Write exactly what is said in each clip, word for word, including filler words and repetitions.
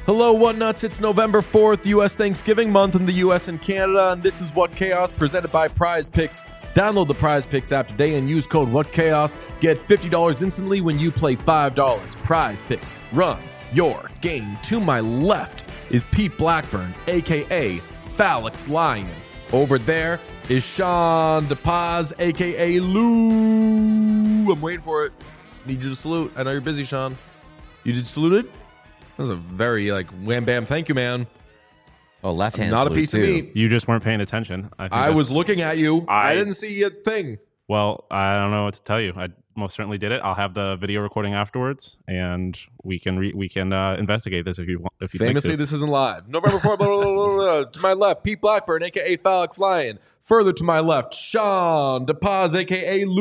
Hello, What Nuts? It's November fourth, U S Thanksgiving month in the U S and Canada, and this is What Chaos presented by Prize Picks. Download the Prize Picks app today and use code What Chaos. Get fifty dollars instantly when you play five dollars. Prize Picks. Run your game. To my left is Pete Blackburn, a k a. Phalix Lion. Over there is Sean DePaz, a k a. Lou. I'm waiting for it. Need you to salute. I know you're busy, Sean. You just saluted? That was a very, like, wham bam, thank you, man. Oh, left hand. Not a piece too. of meat. You just weren't paying attention. I, think I was looking at you. I, I- didn't see a thing. Well, I don't know what to tell you. I most certainly did it. I'll have the video recording afterwards, and we can re- we can uh, investigate this if you want. If you Famously, think to. this isn't live. November fourth, blah, blah, blah, blah, blah. To my left, Pete Blackburn, a k a. Phalix Lion. Further to my left, Sean DePaz, a k a.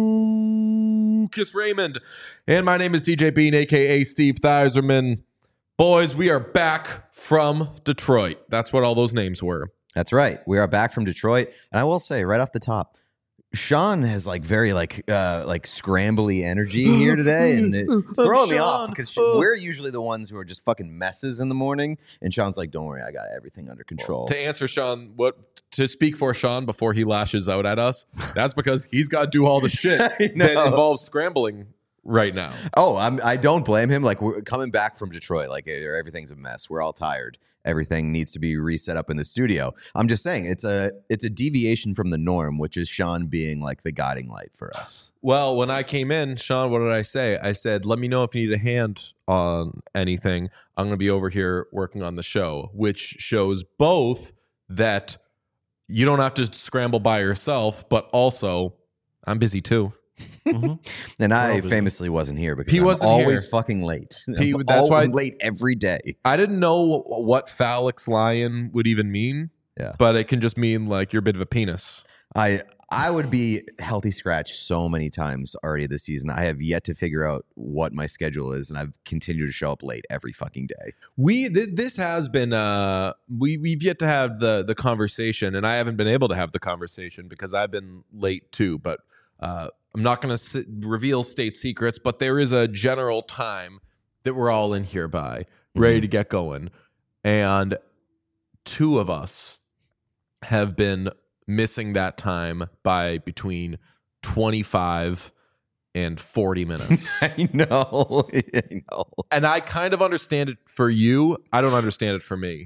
Lucas Raymond. And my name is T J Bean, a k a. Steve Theiserman. Boys, we are back from Detroit. That's what all those names were. That's right. We are back from Detroit, and I will say right off the top, Sean has like very like uh like scrambly energy here today, and it's throwing me off because uh, we're usually the ones who are just fucking messes in the morning, and Sean's like, "Don't worry, I got everything under control." To answer Sean, what to speak for Sean before he lashes out at us, that's because he's got to do all the shit that involves scrambling right now. Oh, I'm, I don't blame him. Like, we're coming back from Detroit, like everything's a mess. We're all tired. Everything needs to be reset up in the studio. I'm just saying it's a it's a deviation from the norm, which is Sean being like the guiding light for us. Well, when I came in, Sean, what did I say? I said, let me know if you need a hand on anything. I'm going to be over here working on the show, which shows both that you don't have to scramble by yourself, but also I'm busy too. Mhm. And I busy. famously wasn't here because He I'm wasn't always here. fucking late. He- I'm that's all- why- I'm late every day. I didn't know what Phalix Lion would even mean, Yeah. but it can just mean like you're a bit of a penis. I I would be healthy scratch so many times already this season. I have yet to figure out what my schedule is, and I've continued to show up late every fucking day. We th- this has been uh we we've yet to have the the conversation, and I haven't been able to have the conversation because I've been late too. But uh, I'm not going to reveal state secrets, but there is a general time that we're all in here by, ready Mhm. to get going, and two of us have been missing that time by between twenty-five and forty minutes. I know. I know. And I kind of understand it for you. I don't understand it for me.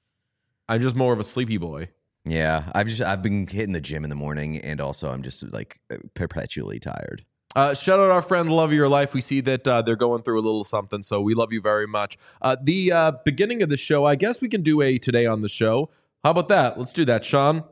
I'm just more of a sleepy boy. Yeah, I've just I've been hitting the gym in the morning, and also I'm just like perpetually tired. Uh, shout out our friend Love of Your Life. We see that uh, they're going through a little something, so we love you very much. Uh, the uh, beginning of the show, I guess we can do a Today on the Show. How about that? Let's do that, Sean.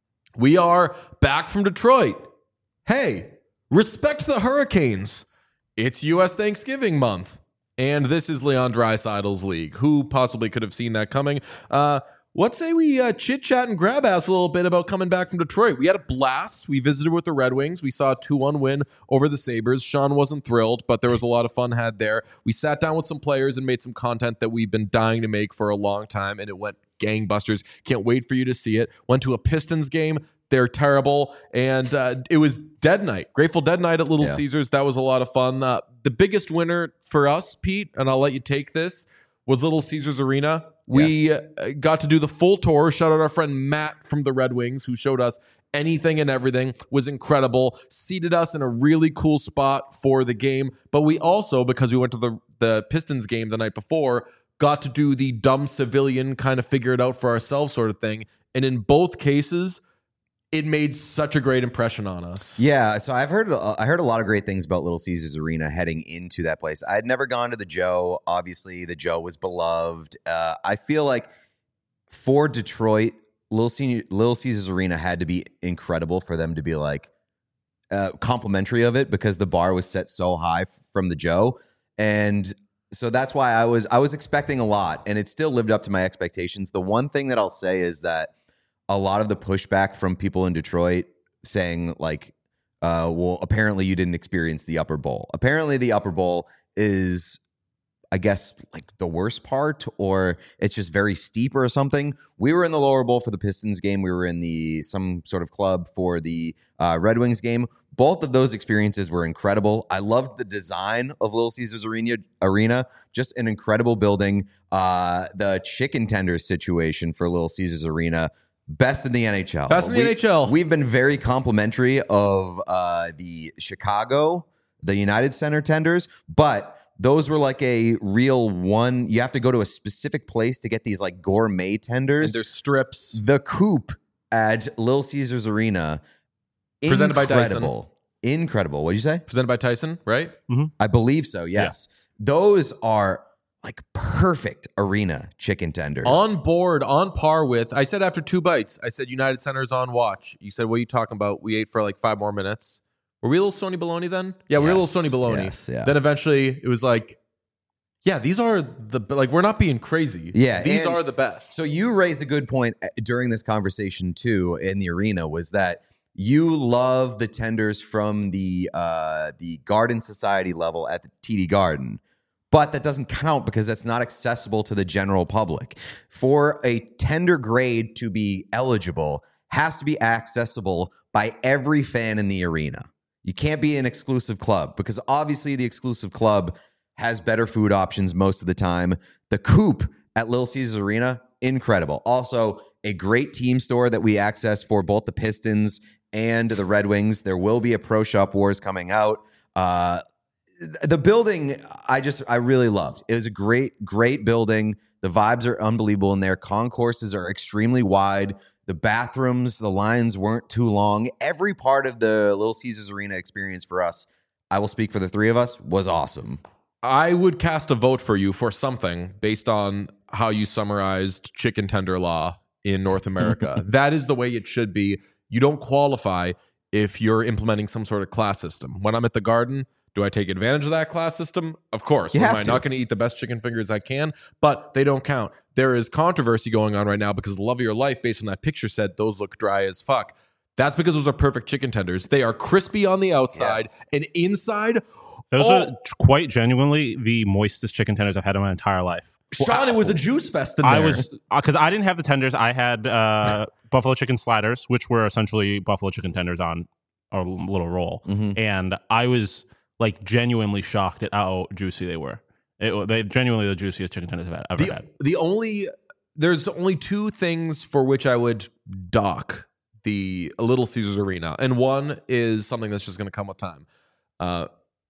We are back from Detroit. Hey, respect the Hurricanes. It's U S Thanksgiving month, and this is Leon Draisaitl's league. Who possibly could have seen that coming? Uh, what say we uh, chit-chat and grab ass a little bit about coming back from Detroit? We had a blast. We visited with the Red Wings. We saw a two one win over the Sabres. Sean wasn't thrilled, but there was a lot of fun had there. We sat down with some players and made some content that we've been dying to make for a long time, and it went gangbusters. Can't wait for you to see it. Went to a Pistons game. They're terrible. And uh, it was Dead Night, Grateful Dead Night at Little Yeah. Caesars. That was a lot of fun. Uh, the biggest winner for us, Pete, and I'll let you take this, was Little Caesars Arena. We Yes. uh, got to do the full tour. Shout out our friend Matt from the Red Wings, who showed us anything and everything. Was incredible. Seated us in a really cool spot for the game. But we also, because we went to the, the Pistons game the night before, got to do the dumb civilian kind of figure it out for ourselves sort of thing. And in both cases, it made such a great impression on us. Yeah, so I've heard I heard a lot of great things about Little Caesars Arena heading into that place. I had never gone to the Joe. Obviously, the Joe was beloved. Uh, I feel like for Detroit, Little, Senior, Little Caesars Arena had to be incredible for them to be like uh, complimentary of it because the bar was set so high from the Joe, and so that's why I was I was expecting a lot, and it still lived up to my expectations. The one thing that I'll say is that a lot of the pushback from people in Detroit saying like, uh, well, apparently you didn't experience the Upper Bowl. Apparently the Upper Bowl is I guess, like the worst part, or it's just very steep or something. We were in the lower bowl for the Pistons game. We were in the some sort of club for the uh, Red Wings game. Both of those experiences were incredible. I loved the design of Little Caesars Arena. Arena, just an incredible building. Uh, the chicken tenders situation for Little Caesars Arena, best in the N H L. Best in the we, N H L. We've been very complimentary of uh, the Chicago, the United Center tenders, but those were like a real one. You have to go to a specific place to get these like gourmet tenders. And there's strips. The Coop at Little Caesars Arena, presented by Dyson. incredible. Incredible. What did you say? Presented by Tyson, right? Mm-hmm. I believe so, yes. Yeah. Those are like perfect arena chicken tenders. On board, on par with, I said after two bites, I said United Center's on watch. You said, what are you talking about? We ate for like five more minutes. Were we a little Sony Baloney then? Yeah, we were Yes, a little Sony Baloney. yes, yeah. Then eventually it was like, yeah, these are the, like, we're not being crazy. Yeah, These and are the best. So you raise a good point during this conversation too in the arena, was that you love the tenders from the uh, the Garden Society level at the T D Garden, but that doesn't count because that's not accessible to the general public. For a tender grade to be eligible, has to be accessible by every fan in the arena. You can't be an exclusive club because obviously the exclusive club has better food options most of the time. The Coop at Little Caesars Arena, incredible. Also, a great team store that we access for both the Pistons and the Red Wings. There will be a Pro Shop Wars coming out. Uh, the building, I just, I really loved. It was a great, great building. The vibes are unbelievable in there. Concourses are extremely wide. The bathrooms, the lines weren't too long. Every part of the Little Caesars Arena experience for us, I will speak for the three of us, was awesome. I would cast a vote for you for something based on how you summarized chicken tender law in North America. That is the way it should be. You don't qualify if you're implementing some sort of class system. When I'm at the Garden, do I take advantage of that class system? Of course. You Am have I to. not going to eat the best chicken fingers I can? But they don't count. There is controversy going on right now because the love of your life, based on that picture, said those look dry as fuck. That's because those are perfect chicken tenders. They are crispy on the outside, Yes. and inside, Those oh, are quite genuinely the moistest chicken tenders I've had in my entire life. Sean, it was a juice fest in there. I was because I didn't have the tenders. I had uh, buffalo chicken sliders, which were essentially buffalo chicken tenders on a little roll, Mm-hmm. and I was like genuinely shocked at how juicy they were. It, they genuinely the juiciest chicken tenders I've ever the, had. the only there's only two things for which I would dock the Little Caesars Arena, and one is something that's just going to come with time. Uh,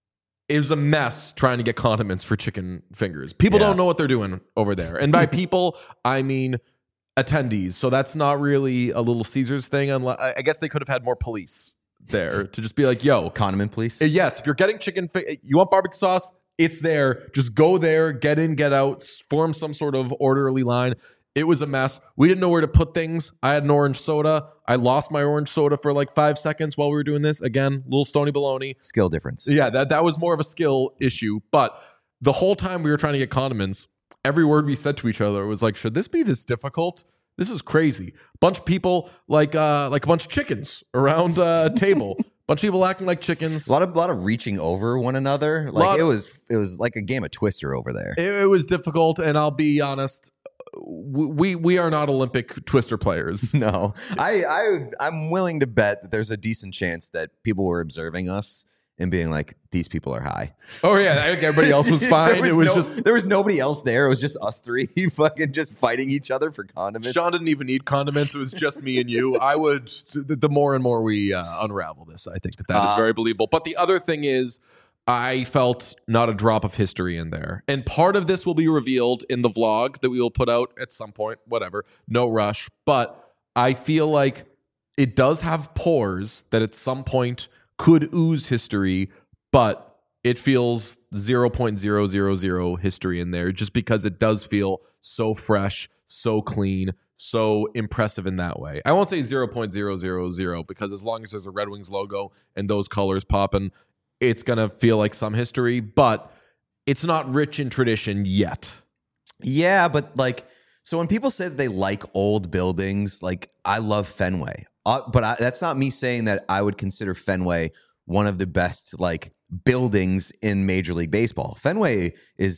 it was a mess trying to get condiments for chicken fingers. People Yeah. don't know what they're doing over there, and by people I mean attendees. So that's not really a Little Caesars thing. Unless I guess they could have had more police there to just be like, "Yo, Condiment, please. Uh, yes, if you're getting chicken, fi- you want barbecue sauce, it's there. Just go there, get in, get out, s- form some sort of orderly line." It was a mess. We didn't know where to put things. I had an orange soda. I lost my orange soda for like five seconds while we were doing this. Again, little Stony Baloney. Skill difference. Yeah, that, that was more of a skill issue. But the whole time we were trying to get condiments, every word we said to each other was like, should this be this difficult? This is crazy. Bunch of people like uh, like a bunch of chickens around a table. Bunch of people acting like chickens. A lot of lot of reaching over one another. Like Lot it of- was it was like a game of Twister over there. It, it was difficult, and I'll be honest, we we are not Olympic twister players. No, I I I'm willing to bet that there's a decent chance that people were observing us and being like, these people are high. Oh yeah, I think everybody else was fine. There it was no- just there was nobody else there. It was just us three, fucking just fighting each other for condiments. Sean didn't even need condiments. It was just me and you. I would the, the more and more we uh, unravel this, I think that that is Uh, very believable. But the other thing is, I felt not a drop of history in there, and part of this will be revealed in the vlog that we will put out at some point. Whatever, no rush. But I feel like it does have pores that at some point could ooze history, but it feels zero point zero zero zero history in there just because it does feel so fresh, so clean, so impressive in that way. I won't say zero point zero zero zero because as long as there's a Red Wings logo and those colors popping, it's going to feel like some history, but it's not rich in tradition yet. Yeah, but like, so when people say that they like old buildings, like I love Fenway, uh, but I, that's not me saying that I would consider Fenway one of the best like buildings in Major League Baseball. Fenway is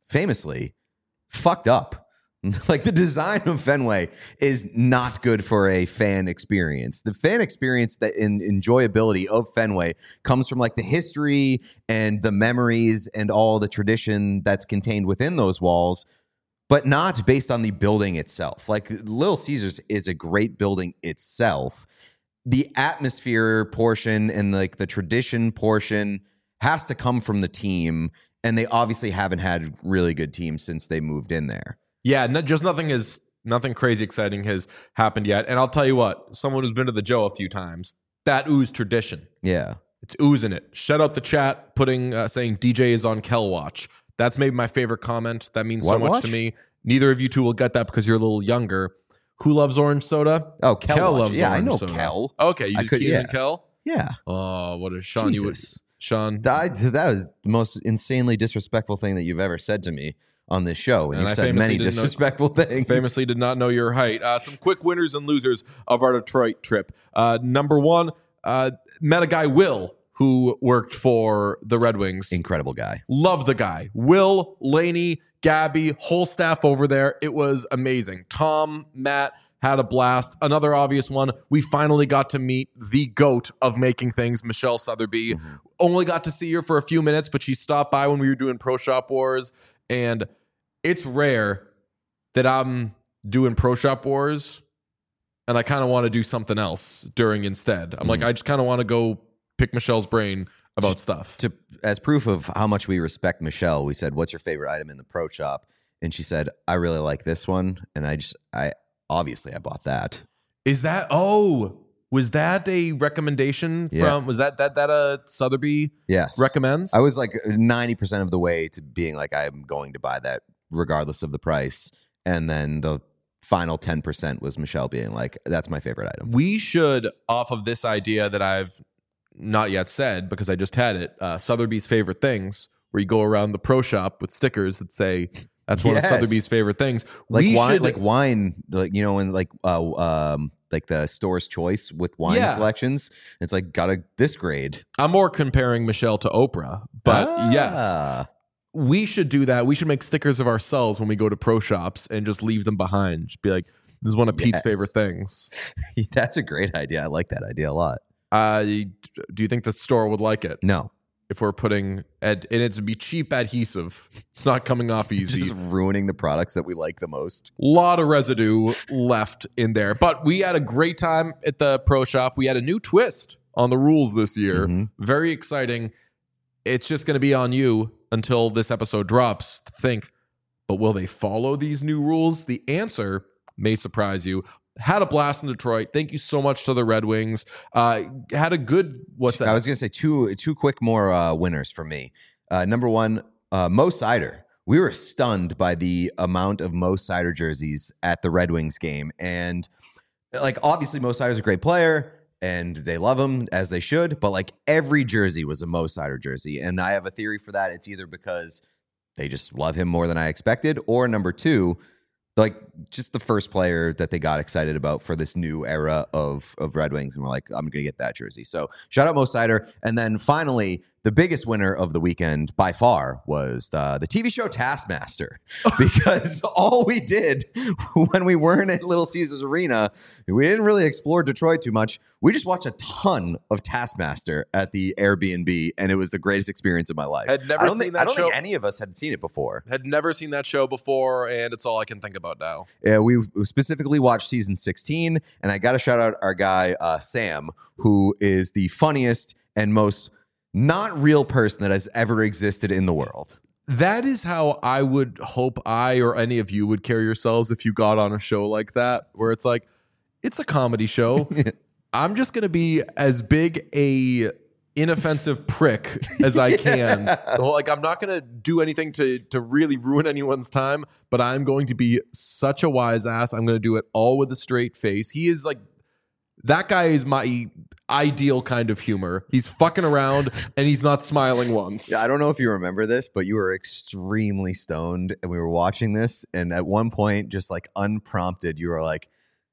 famously fucked up. Like the design of Fenway is not good for a fan experience. The fan experience that in enjoyability of Fenway comes from like the history and the memories and all the tradition that's contained within those walls, but not based on the building itself. Like Little Caesars is a great building itself. The atmosphere portion and like the tradition portion has to come from the team, and they obviously haven't had really good teams since they moved in there. Yeah, no, just nothing is nothing crazy exciting has happened yet. And I'll tell you what, someone who's been to the Joe a few times, that ooze tradition. Yeah, it's oozing it. Shout out the chat, putting uh, saying D J is on Kel Watch. That's maybe my favorite comment. That means what so much watch? to me. Neither of you two will get that because you're a little younger. Who loves orange soda? Oh, Kel, Kel watch. loves yeah, orange I know soda. Kel. Okay, you I did could- Keenan yeah. and Kel? Yeah. Oh, what a Sean you would Jesus. Sean. That, that was the most insanely disrespectful thing that you've ever said to me on this show. And, And you've I said famously many didn't know- disrespectful things. Famously did not know your height. Uh, some quick winners and losers of our Detroit trip. Uh, number one, uh, met a guy, Will, who worked for the Red Wings. Incredible guy. Love the guy. Will, Laney, Gabby, whole staff over there. It was amazing. Tom, Matt, had a blast. Another obvious one, we finally got to meet the GOAT of making things, Michelle Sotheby. Mm-hmm. Only got to see her for a few minutes, but she stopped by when we were doing Pro Shop Wars. And it's rare that I'm doing Pro Shop Wars and I kind of want to do something else during instead. I'm Mm-hmm. like, I just kind of want to go pick Michelle's brain about stuff. To as proof of how much we respect Michelle, we said, "What's your favorite item in the pro shop?" And she said, "I really like this one." And I just, I obviously I bought that. Is that, oh, was that a recommendation Yeah. from, was that, that, that uh, Sotheby Yes, recommends? I was like ninety percent of the way to being like, I'm going to buy that regardless of the price. And then the final ten percent was Michelle being like, that's my favorite item. We should, off of this idea that I've not yet said because I just had it, uh, Sotheby's favorite things, where you go around the pro shop with stickers that say that's one Yes. of Sotheby's favorite things. Like we wine, should, like wine, like, you know, and like, uh, um, like the store's choice with wine Yeah. selections. It's like, got a this grade. I'm more comparing Michelle to Oprah, but Ah. yes, we should do that. We should make stickers of ourselves when we go to pro shops and just leave them behind. Just be like, this is one of Pete's Yes. favorite things. That's a great idea. I like that idea a lot. Uh, do you think the store would like it No, if we're putting ad- and it's be cheap adhesive? It's not coming off easy. just ruining the products that we like the most. Lot of residue left in there, but we had a great time at the pro shop. We had a new twist on the rules this year. Mhm. Very exciting. It's just going to be on you until this episode drops to think, but will they follow these new rules? The answer may surprise you. Had a blast in Detroit. Thank you so much to the Red Wings. Uh, had a good, what's that? I was gonna say two two quick more uh, winners for me. Uh, number one, uh, Mo Sider. We were stunned by the amount of Mo Sider jerseys at the Red Wings game, and like obviously Mo Sider's a great player, and they love him as they should. But like every jersey was a Mo Sider jersey, and I have a theory for that. It's either because they just love him more than I expected, or number two, like just the first player that they got excited about for this new era of of Red Wings, and we're like, I'm gonna get that jersey. So shout out Mo Sider. And then finally, the biggest winner of the weekend by far was the, the T V show Taskmaster, because all we did when we weren't at Little Caesars Arena, we didn't really explore Detroit too much. We just watched a ton of Taskmaster at the Airbnb, and it was the greatest experience of my life. Had never I don't seen think, that I don't show. think any of us had seen it before. Had never seen that show before, and it's all I can think about now. Uh, we specifically watched season sixteen, and I got to shout out our guy, uh, Sam, who is the funniest and most not real person that has ever existed in the world. That is how I would hope I or any of you would carry yourselves if you got on a show like that, where it's like, it's a comedy show. I'm just going to be as big a inoffensive prick as I can. Well, like, I'm not going to do anything to to really ruin anyone's time, but I'm going to be such a wise ass. I'm going to do it all with a straight face. He is like, that guy is my ideal kind of humor. He's fucking around and he's not smiling once. Yeah, I don't know if you remember this, but you were extremely stoned, and we were watching this, and at one point, just like unprompted, you were like,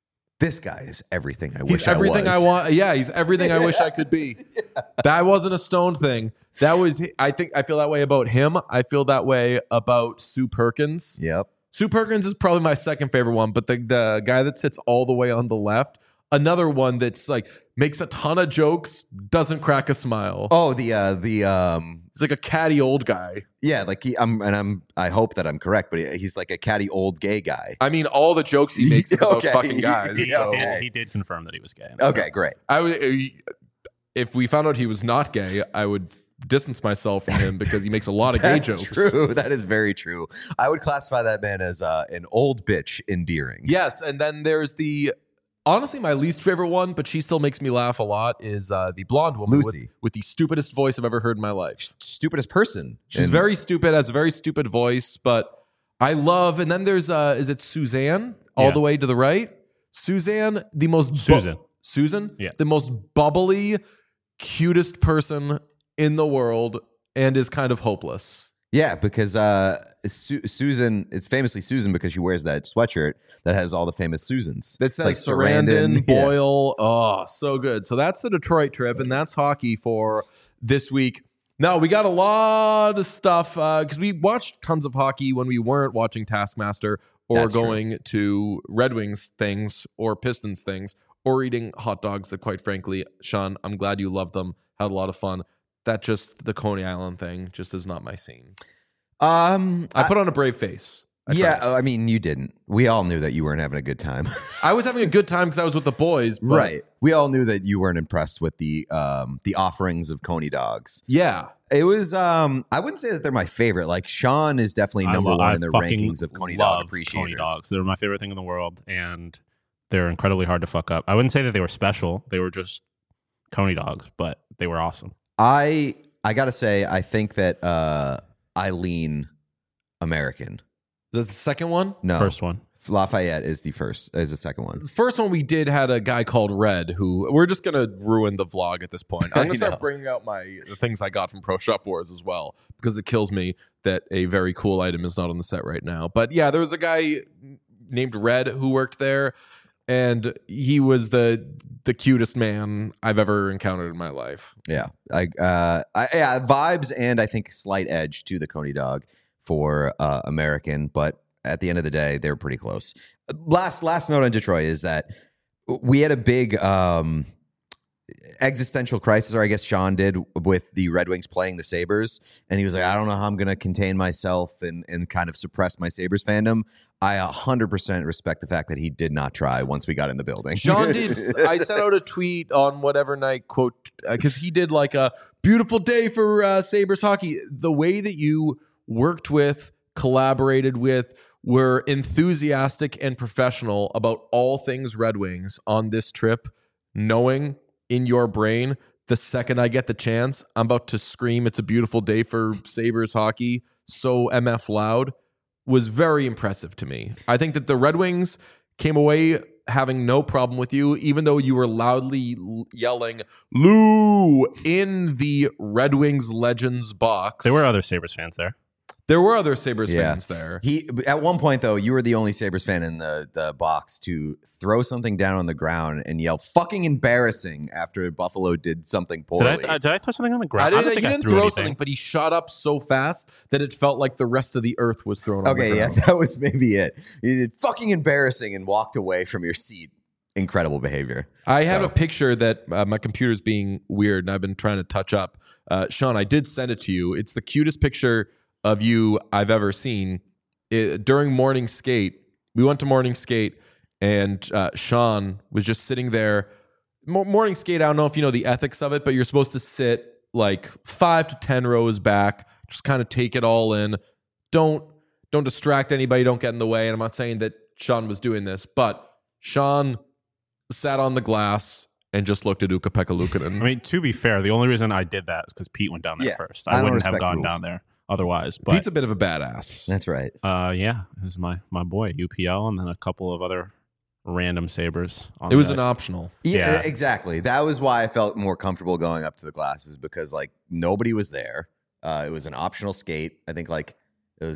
this guy is everything I He's wish everything I I was. want. Yeah, he's everything I wish I could be. That wasn't a Stone thing. That was. I think I feel that way about him. I feel that way about Sue Perkins. Yep. Sue Perkins is probably my second favorite one, but the the guy that sits all the way on the left, another one that's like makes a ton of jokes, doesn't crack a smile. Oh, the uh, the um, He's like a catty old guy. yeah, like he, I'm, and I'm, I hope that I'm correct, but he, he's like a catty old gay guy. I mean, all the jokes he makes is about Okay. fucking guys. He, so did, he did confirm that he was gay. Okay, great. I would, if we found out he was not gay, I would distance myself from him because he makes a lot of gay That's jokes. true. That is very true. I would classify that man as uh, an old bitch endearing. Yes, and then there's the honestly my least favorite one, but she still makes me laugh a lot. Is uh, the blonde woman with, Lucy. with the stupidest voice I've ever heard in my life. Stupidest person. She's And- very stupid, has a very stupid voice, but I love. And then there's uh, is it Suzanne all Yeah. the way to the right? Suzanne, the most bu- Susan. Susan, Yeah. the most bubbly, cutest person in the world, and is kind of hopeless. Yeah, because uh, Su- Susan, it's famously Susan because she wears that sweatshirt that has all the famous Susans. That It's says like Sarandon, Yeah. Boyle. Oh, so good. So that's the Detroit trip, and that's hockey for this week. Now, we got a lot of stuff because we watched tons of hockey when we weren't watching Taskmaster or That's true. going to Red Wings things or Pistons things or eating hot dogs that, quite frankly, Sean, I'm glad you loved them, had a lot of fun. That just, the Coney Island thing just is not my scene. Um, I put on a brave face. I yeah, tried. I mean, you didn't. We all knew that you weren't having a good time. I was having a good time because I was with the boys. But Right. We all knew that you weren't impressed with the um the offerings of Coney dogs. Yeah. It was um I wouldn't say that they're my favorite. Like Sean is definitely I number lo- one I in the fucking rankings of Coney dog love appreciators. Coney dogs. They're my favorite thing in the world, and they're incredibly hard to fuck up. I wouldn't say that they were special. They were just Coney dogs, but they were awesome. I I gotta say, I think that uh I lean American. That's the second one. No, First one. Lafayette is the first. Is the second one. The first one we did had a guy called Red who we're just gonna ruin the vlog at this point. I'm I gonna start know. bringing out my the things I got from Pro Shop Wars as well because it kills me that a very cool item is not on the set right now. But yeah, there was a guy named Red who worked there, and he was the the cutest man I've ever encountered in my life. Yeah, I, uh, I, yeah, vibes and I think slight edge to the Coney dog for uh, American, but at the end of the day, they're pretty close. Last last note on Detroit is that we had a big um, existential crisis, or I guess Sean did, with the Red Wings playing the Sabres, and he was like, I don't know how I'm going to contain myself and and kind of suppress my Sabres fandom. I one hundred percent respect the fact that he did not try once we got in the building. Sean did. I sent out a tweet on whatever night quote because he did like a beautiful day for uh, Sabres hockey. The way that you worked with, collaborated with, were enthusiastic and professional about all things Red Wings on this trip, knowing in your brain the second I get the chance, I'm about to scream, it's a beautiful day for Sabres hockey, so M F loud, was very impressive to me. I think that the Red Wings came away having no problem with you, even though you were loudly l- yelling Lou in the Red Wings Legends box. There were other Sabres fans there. There were other Sabres Yeah. fans there. He at one point though, you were the only Sabres fan in the the box to throw something down on the ground and yell "fucking embarrassing" after Buffalo did something Did poorly. I, uh, did I throw something on the I ground? didn't, don't he think I didn't threw throw anything. something, but he shot up so fast that it felt like the rest of the earth was thrown on okay, the yeah, ground. that was maybe it. You did fucking embarrassing and walked away from your seat. Incredible behavior. I have So- a picture that uh, my computer's being weird and I've been trying to touch up. Uh, Sean, I did send it to you. It's the cutest picture of you I've ever seen. It, during morning skate, we went to morning skate and uh, Sean was just sitting there. Mo- morning skate, I don't know if you know the ethics of it, but you're supposed to sit like five to ten rows back, just kind of take it all in. Don't don't distract anybody, don't get in the way. And I'm not saying that Sean was doing this, but Sean sat on the glass and just looked at Ukko-Pekka Luukkonen. I mean, to be fair, the only reason I did that is because Pete went down there Yeah, first. I I, don't wouldn't have respect gone rules. down there otherwise. But Pete's a bit of a badass. That's right. uh, yeah, it was my my boy U P L, and then a couple of other random Sabres. On It was the an ice. optional. Yeah, Yeah. exactly. That was why I felt more comfortable going up to the glasses because like nobody was there. Uh, it was an optional skate. I think like it was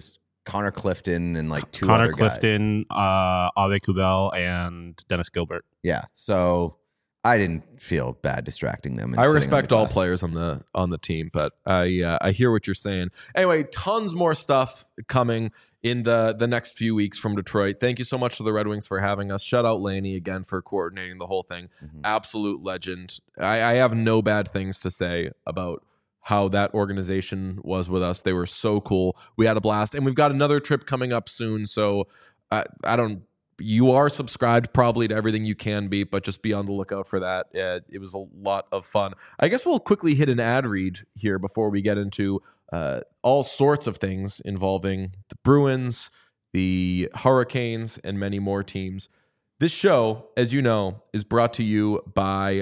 Connor Clifton and like two Connor other guys. Clifton, uh, Ave Kubel, and Dennis Gilbert. Yeah. So I didn't feel bad distracting them. and I sitting on respect the all bus. players on the on the team, but I uh, I hear what you're saying. Anyway, tons more stuff coming in the the next few weeks from Detroit. Thank you so much to the Red Wings for having us. Shout out Laney again for coordinating the whole thing. Mhm. Absolute legend. I, I have no bad things to say about how that organization was with us. They were so cool. We had a blast, and we've got another trip coming up soon. So I, I don't. You are subscribed probably to everything you can be, but just be on the lookout for that. Uh, it was a lot of fun. I guess we'll quickly hit an ad read here before we get into uh, all sorts of things involving the Bruins, the Hurricanes, and many more teams. This show, as you know, is brought to you by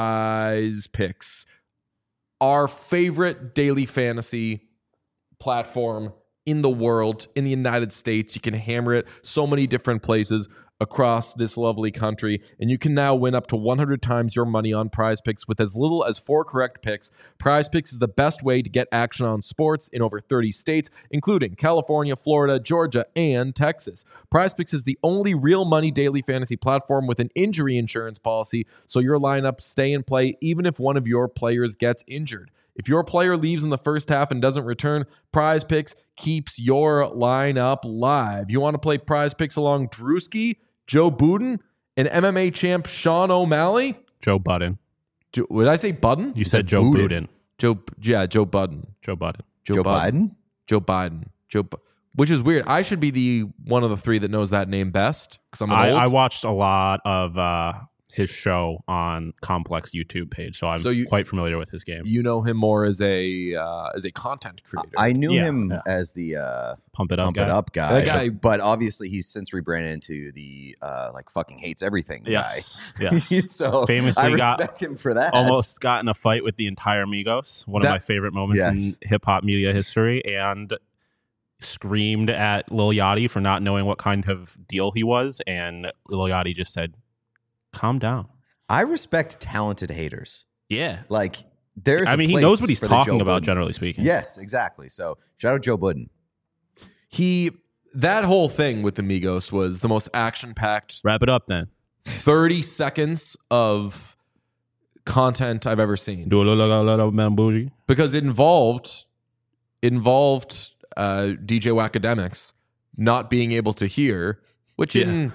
Prize Picks, our favorite daily fantasy platform in the world, in the United States. You can hammer it so many different places across this lovely country, and you can now win up to one hundred times your money on Prize Picks with as little as four correct picks. Prize Picks is the best way to get action on sports in over thirty states, including California, Florida, Georgia, and Texas. Prize Picks is the only real money daily fantasy platform with an injury insurance policy, so your lineups stay in play even if one of your players gets injured. If your player leaves in the first half and doesn't return, Prize Picks keeps your lineup live. You want to play Prize Picks along Drewski, Joe Budden, and M M A champ Sean O'Malley? Joe Budden. Jo- Would I say Budden? You said Joe Budden. Budden. Joe, yeah, Joe Budden. Joe Budden. Joe Biden? Joe Biden. Joe, Bu- which is weird. I should be the one of the three that knows that name best because I'm an I, old. I watched a lot of uh, his show on Complex YouTube page, so I'm So you- quite familiar with his game. You know him more as a uh, as a content creator. I knew Yeah, him yeah. as the uh, Pump it up, Pump guy. It Up guy. That guy- But, but obviously he's since rebranded into the uh, like fucking hates everything Yes, guy. yes. so Famously I got respect him for that. Almost got in a fight with the entire Migos. One That- of my favorite moments Yes. in hip hop media history, and screamed at Lil Yachty for not knowing what kind of deal he was, and Lil Yachty just said, "Calm down." I respect talented haters. Yeah, Like there's I a mean, he place knows what he's for the talking Joe about, Budden. generally speaking. Yes, exactly. So shout out Joe Budden. he that whole thing with the Migos was the most action packed Wrap it up then. thirty seconds of content I've ever seen Do a little, little, little man bougie. because it involved it involved uh, D J Wacademics not being able to hear, which in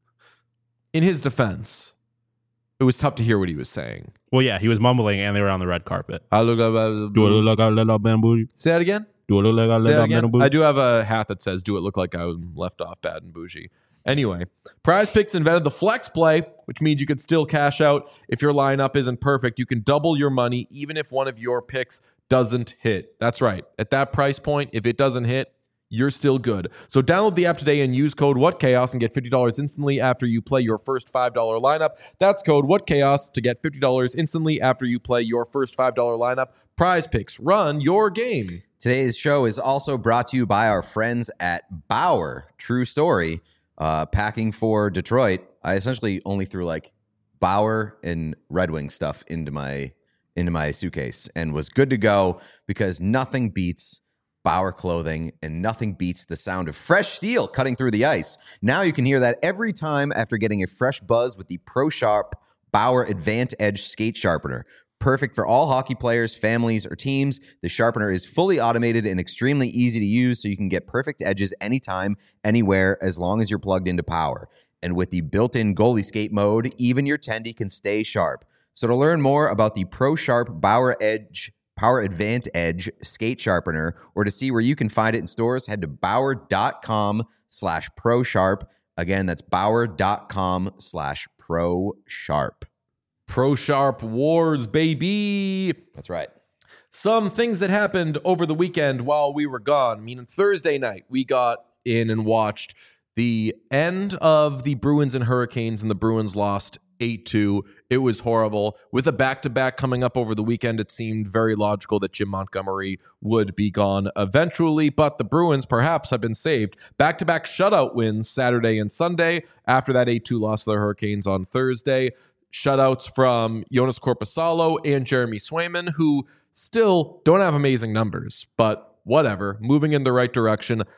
in his defense, it was tough to hear what he was saying. Well, yeah, he was mumbling, and they were on the red carpet. I look Do a little, little, little man bougie. Say that again. Do a little, little, Say that little again? man bougie. I do have a hat that says "Do it look like I was left off bad and bougie." Anyway, Prize Picks invented the flex play, which means you could still cash out if your lineup isn't perfect. You can double your money even if one of your picks doesn't hit. That's right. At that price point, if it doesn't hit, you're still good. So download the app today and use code WhatChaos and get fifty dollars instantly after you play your first five dollars lineup. That's code WhatChaos to get fifty dollars instantly after you play your first five dollars lineup. Prize Picks, run your game. Today's show is also brought to you by our friends at Bauer. True story. Uh, packing for Detroit, I essentially only threw like Bauer and Red Wing stuff into my into my suitcase and was good to go because nothing beats Bauer clothing and nothing beats the sound of fresh steel cutting through the ice. Now you can hear that every time after getting a fresh buzz with the Pro Sharp Bauer Advant Edge Skate Sharpener. Perfect for all hockey players, families, or teams. The sharpener is fully automated and extremely easy to use, so you can get perfect edges anytime, anywhere, as long as you're plugged into power. And with the built-in goalie skate mode, even your tendy can stay sharp. So to learn more about the Pro Sharp Bauer Edge Power Advant Edge Skate Sharpener, or to see where you can find it in stores, head to bauer.com slash pro sharp. Again, that's bauer.com slash pro sharp. Pro Sharp Wars, baby. That's right. Some things that happened over the weekend while we were gone. Meaning Thursday night, we got in and watched the end of the Bruins and Hurricanes, and the Bruins lost eight two. It was horrible. With a back-to-back coming up over the weekend, it seemed very logical that Jim Montgomery would be gone eventually, but the Bruins perhaps have been saved. Back-to-back shutout wins Saturday and Sunday after that eight two loss to the Hurricanes on Thursday. Shutouts from Jonas Korpisalo and Jeremy Swayman, who still don't have amazing numbers, but whatever, moving in the right direction.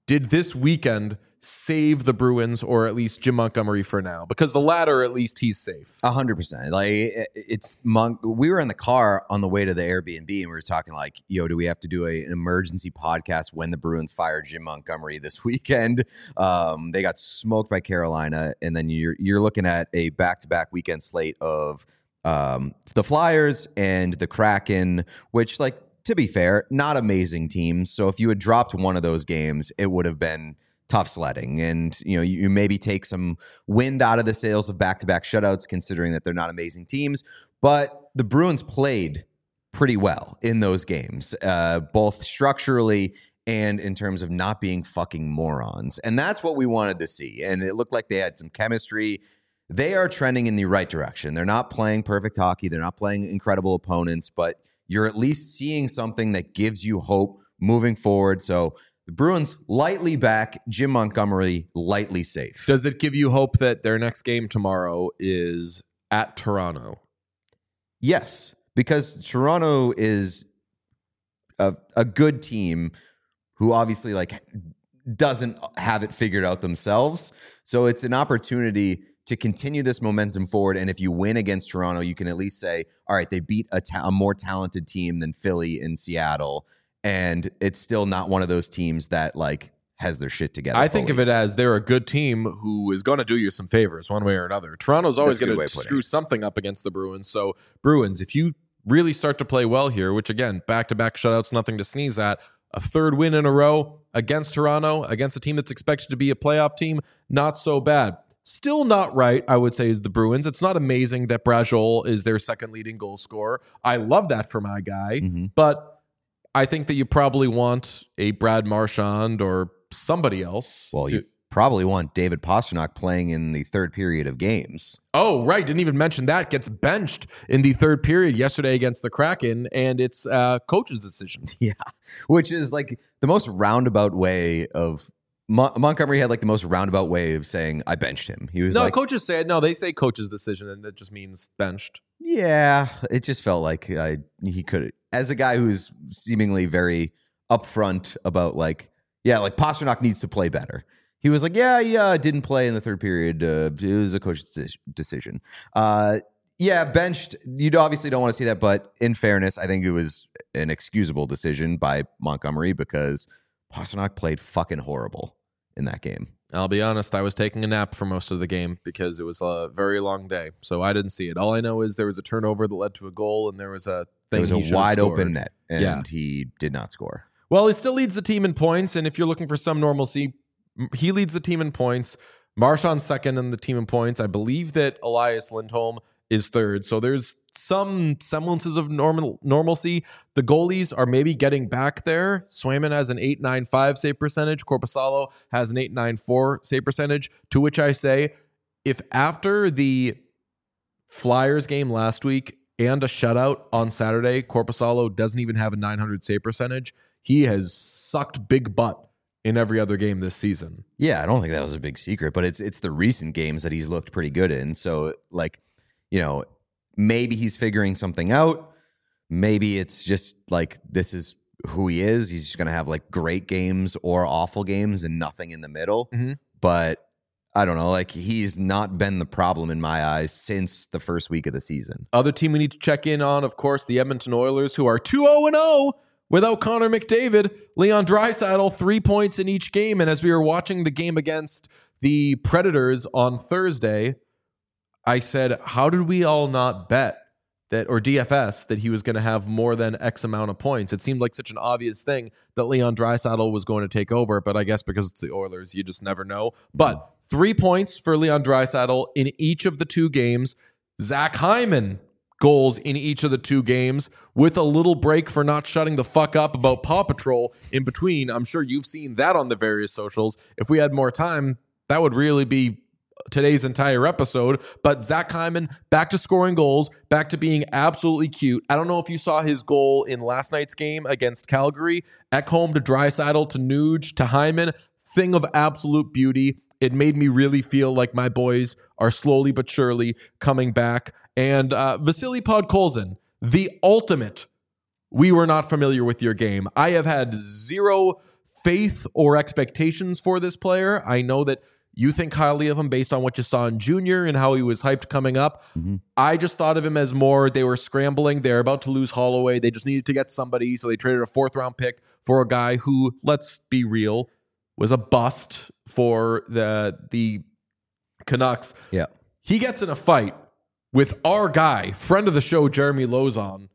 did this weekend save the Bruins or at least Jim Montgomery for now? Because the latter, at least he's safe. A hundred percent. Like it's Mon- we were in the car on the way to the Airbnb and we were talking like, yo, do we have to do a, an emergency podcast when the Bruins fired Jim Montgomery this weekend? Um, they got smoked by Carolina, and then you're you're looking at a back to back weekend slate of um, the Flyers and the Kraken, which, like, to be fair, not amazing teams. So if you had dropped one of those games, it would have been tough sledding, and you know you maybe take some wind out of the sails of back-to-back shutouts, considering that they're not amazing teams. But the Bruins played pretty well in those games, uh, both structurally and in terms of not being fucking morons, and that's what we wanted to see. And it looked like they had some chemistry. They are trending in the right direction. They're not playing perfect hockey. They're not playing incredible opponents, but you're at least seeing something that gives you hope moving forward. So the Bruins lightly back, Jim Montgomery lightly safe. Does it give you hope that their next game tomorrow is at Toronto? Yes, because Toronto is a, a good team who obviously like doesn't have it figured out themselves. So it's an opportunity to continue this momentum forward. And if you win against Toronto, you can at least say, all right, they beat a, ta- a more talented team than Philly and Seattle. And it's still not one of those teams that like has their shit together. I fully. think of it as they're a good team who is going to do you some favors one way or another. Toronto's always going to screw something up against the Bruins. So Bruins, if you really start to play well here, which again, back-to-back shutouts, nothing to sneeze at, a third win in a row against Toronto, against a team that's expected to be a playoff team, not so bad. Still not right, I would say, is the Bruins. It's not amazing that Brajol is their second leading goal scorer. I love that for my guy, Mm-hmm. but I think that you probably want a Brad Marchand or somebody else. Well, to- you probably want David Pastrnak playing in the third period of games. Oh, right. Didn't even mention that. Gets benched in the third period yesterday against the Kraken, and it's uh, coach's decision. Yeah, which is like the most roundabout way of Mon- Montgomery had like the most roundabout way of saying I benched him. He was No, like, coaches say it. No, they say coach's decision, and that just means benched. yeah, it just felt like I he could, as a guy who's seemingly very upfront about like, yeah, like Pastrnak needs to play better. He was like, yeah, yeah, didn't play in the third period. Uh, it was a coach's decision. Uh, yeah, benched. You obviously don't want to see that, but in fairness, I think it was an excusable decision by Montgomery because Pastrnak played fucking horrible in that game. I'll be honest, I was taking a nap for most of the game because it was a very long day, so I didn't see it. All I know is there was a turnover that led to a goal, and there was a thing. It was he a should have wide scored. open net, and Yeah. he did not score. Well, he still leads the team in points, and if you're looking for some normalcy, he leads the team in points. Marchand's second in the team in points. I believe that Elias Lindholm is third. So there's some semblances of normal normalcy. The goalies are maybe getting back there. Swayman has an eight ninety-five save percentage. Korpisalo has an eight ninety-four save percentage, to which I say, if after the Flyers game last week and a shutout on Saturday, Korpisalo doesn't even have a nine hundred save percentage, he has sucked big butt in every other game this season. Yeah, I don't think that was a big secret, but it's it's the recent games that he's looked pretty good in. So, like, you know, maybe he's figuring something out. Maybe it's just like this is who he is. He's just going to have like great games or awful games and nothing in the middle. Mm-hmm. But I don't know. Like, he's not been the problem in my eyes since the first week of the season. Other team we need to check in on, of course, the Edmonton Oilers, who are two oh and oh without Connor McDavid. Leon Draisaitl, three points in each game. And as we were watching the game against the Predators on Thursday, I said, how did we all not bet that, or D F S, that he was going to have more than X amount of points? It seemed like such an obvious thing that Leon Draisaitl was going to take over, but I guess because it's the Oilers, you just never know. But three points for Leon Draisaitl in each of the two games. Zach Hyman goals in each of the two games with a little break for not shutting the fuck up about Paw Patrol in between. I'm sure you've seen that on the various socials. If we had more time, that would really be today's entire episode. But Zach Hyman back to scoring goals, back to being absolutely cute. I don't know if you saw his goal in last night's game against Calgary. Ekholm to Draisaitl to Nuge to Hyman. Thing of absolute beauty. It made me really feel like my boys are slowly but surely coming back. And uh, Vasily Podkolzin, the ultimate, we were not familiar with your game. I have had zero faith or expectations for this player. I know that you think highly of him based on what you saw in junior and how he was hyped coming up. Mm-hmm. I just thought of him as more, they were scrambling. They're about to lose Holloway. They just needed to get somebody. So they traded a fourth round pick for a guy who, let's be real, was a bust for the, the Canucks. Yeah. He gets in a fight with our guy, friend of the show, Jeremy Lauzon.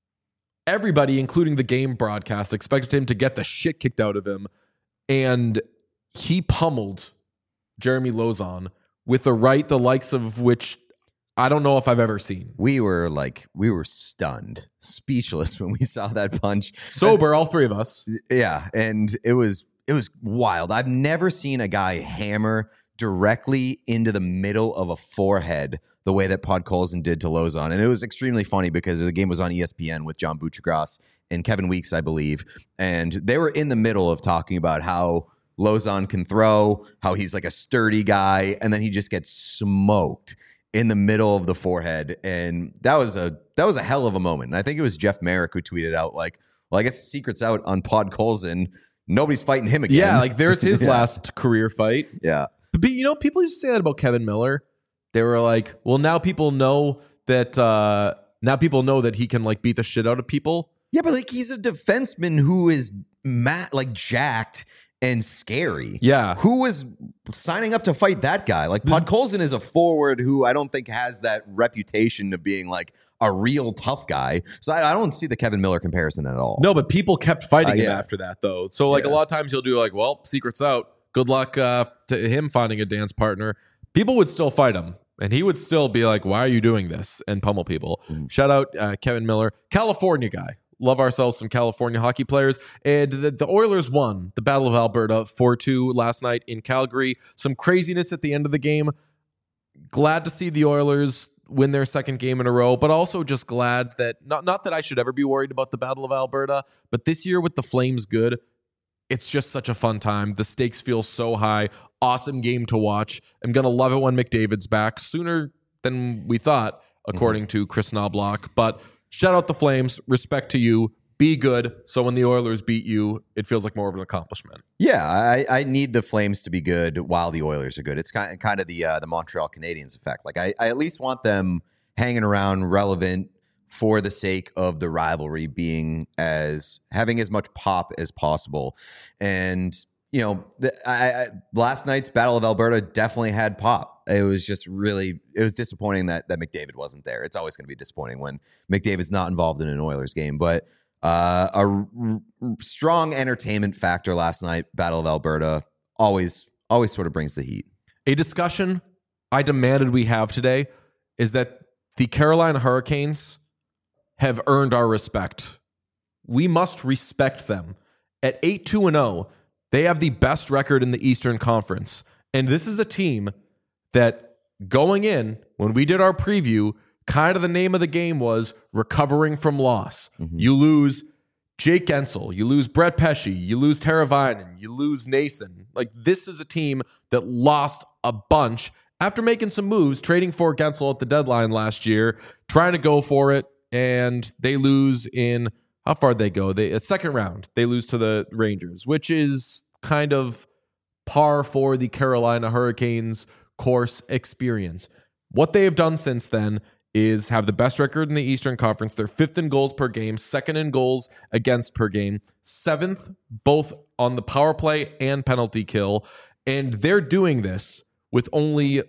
Everybody, including the game broadcast, expected him to get the shit kicked out of him. And he pummeled Jeremy Lauzon with a right the likes of which I don't know if I've ever seen. We were like, we were stunned, speechless when we saw that punch. Sober, As, all three of us. Yeah, and it was it was wild. I've never seen a guy hammer directly into the middle of a forehead the way that Podkolzin did to Lauzon. And it was extremely funny because the game was on E S P N with John Buccigross and Kevin Weeks, I believe. And they were in the middle of talking about how Lauzon can throw, how he's like a sturdy guy, and then he just gets smoked in the middle of the forehead. And that was a that was a hell of a moment. And I think it was Jeff Merrick who tweeted out like, well, I guess the secret's out on Podkolzin. Nobody's fighting him again. Yeah, like there's his yeah. last career fight. Yeah. But you know, people used to say that about Kevin Miller. They were like, well, now people know that uh, now people know that he can like beat the shit out of people. Yeah, but like he's a defenseman who is ma- like jacked and scary. Yeah. Who was signing up to fight that guy? Like Podkolzin is a forward who I don't think has that reputation of being like a real tough guy. So I, I don't see the Kevin Miller comparison at all. No, but people kept fighting Uh, him yeah. after that, though. So like Yeah. a lot of times he'll do like, well, secret's out. Good luck uh, to him finding a dance partner. People would still fight him. And he would still be like, why are you doing this? And pummel people. Mm. Shout out uh, Kevin Miller. California guy. Love ourselves some California hockey players. And the, the Oilers won the Battle of Alberta four two last night in Calgary. Some craziness at the end of the game. Glad to see the Oilers win their second game in a row, but also just glad that, not, not that I should ever be worried about the Battle of Alberta, but this year with the Flames good, it's just such a fun time. The stakes feel so high. Awesome game to watch. I'm going to love it when McDavid's back sooner than we thought, according mm-hmm. to Chris Knobloch. But shout out the Flames. Respect to you. Be good. So when the Oilers beat you, it feels like more of an accomplishment. Yeah, I, I need the Flames to be good while the Oilers are good. It's kind of, kind of the uh, the Montreal Canadiens effect. Like I, I at least want them hanging around relevant for the sake of the rivalry being as having as much pop as possible. And, you know, the, I, I, last night's Battle of Alberta definitely had pop. It was just really, it was disappointing that, that McDavid wasn't there. It's always going to be disappointing when McDavid's not involved in an Oilers game. But uh, a r- r- strong entertainment factor last night, Battle of Alberta, always, always sort of brings the heat. A discussion I demanded we have today is that the Carolina Hurricanes have earned our respect. We must respect them. At eight two and oh, they have the best record in the Eastern Conference. And this is a team that going in, when we did our preview, kind of the name of the game was recovering from loss. Mm-hmm. You lose Jake Gensel, you lose Brett Pesce, you lose Teravainen, you lose Nason. Like, this is a team that lost a bunch after making some moves, trading for Gensel at the deadline last year, trying to go for it. And they lose in, how far did they go? They a second round. They lose to the Rangers, which is kind of par for the Carolina Hurricanes course experience. What they have done since then is have the best record in the Eastern Conference. They're fifth in goals per game, second in goals against per game, seventh both on the power play and penalty kill. And they're doing this with only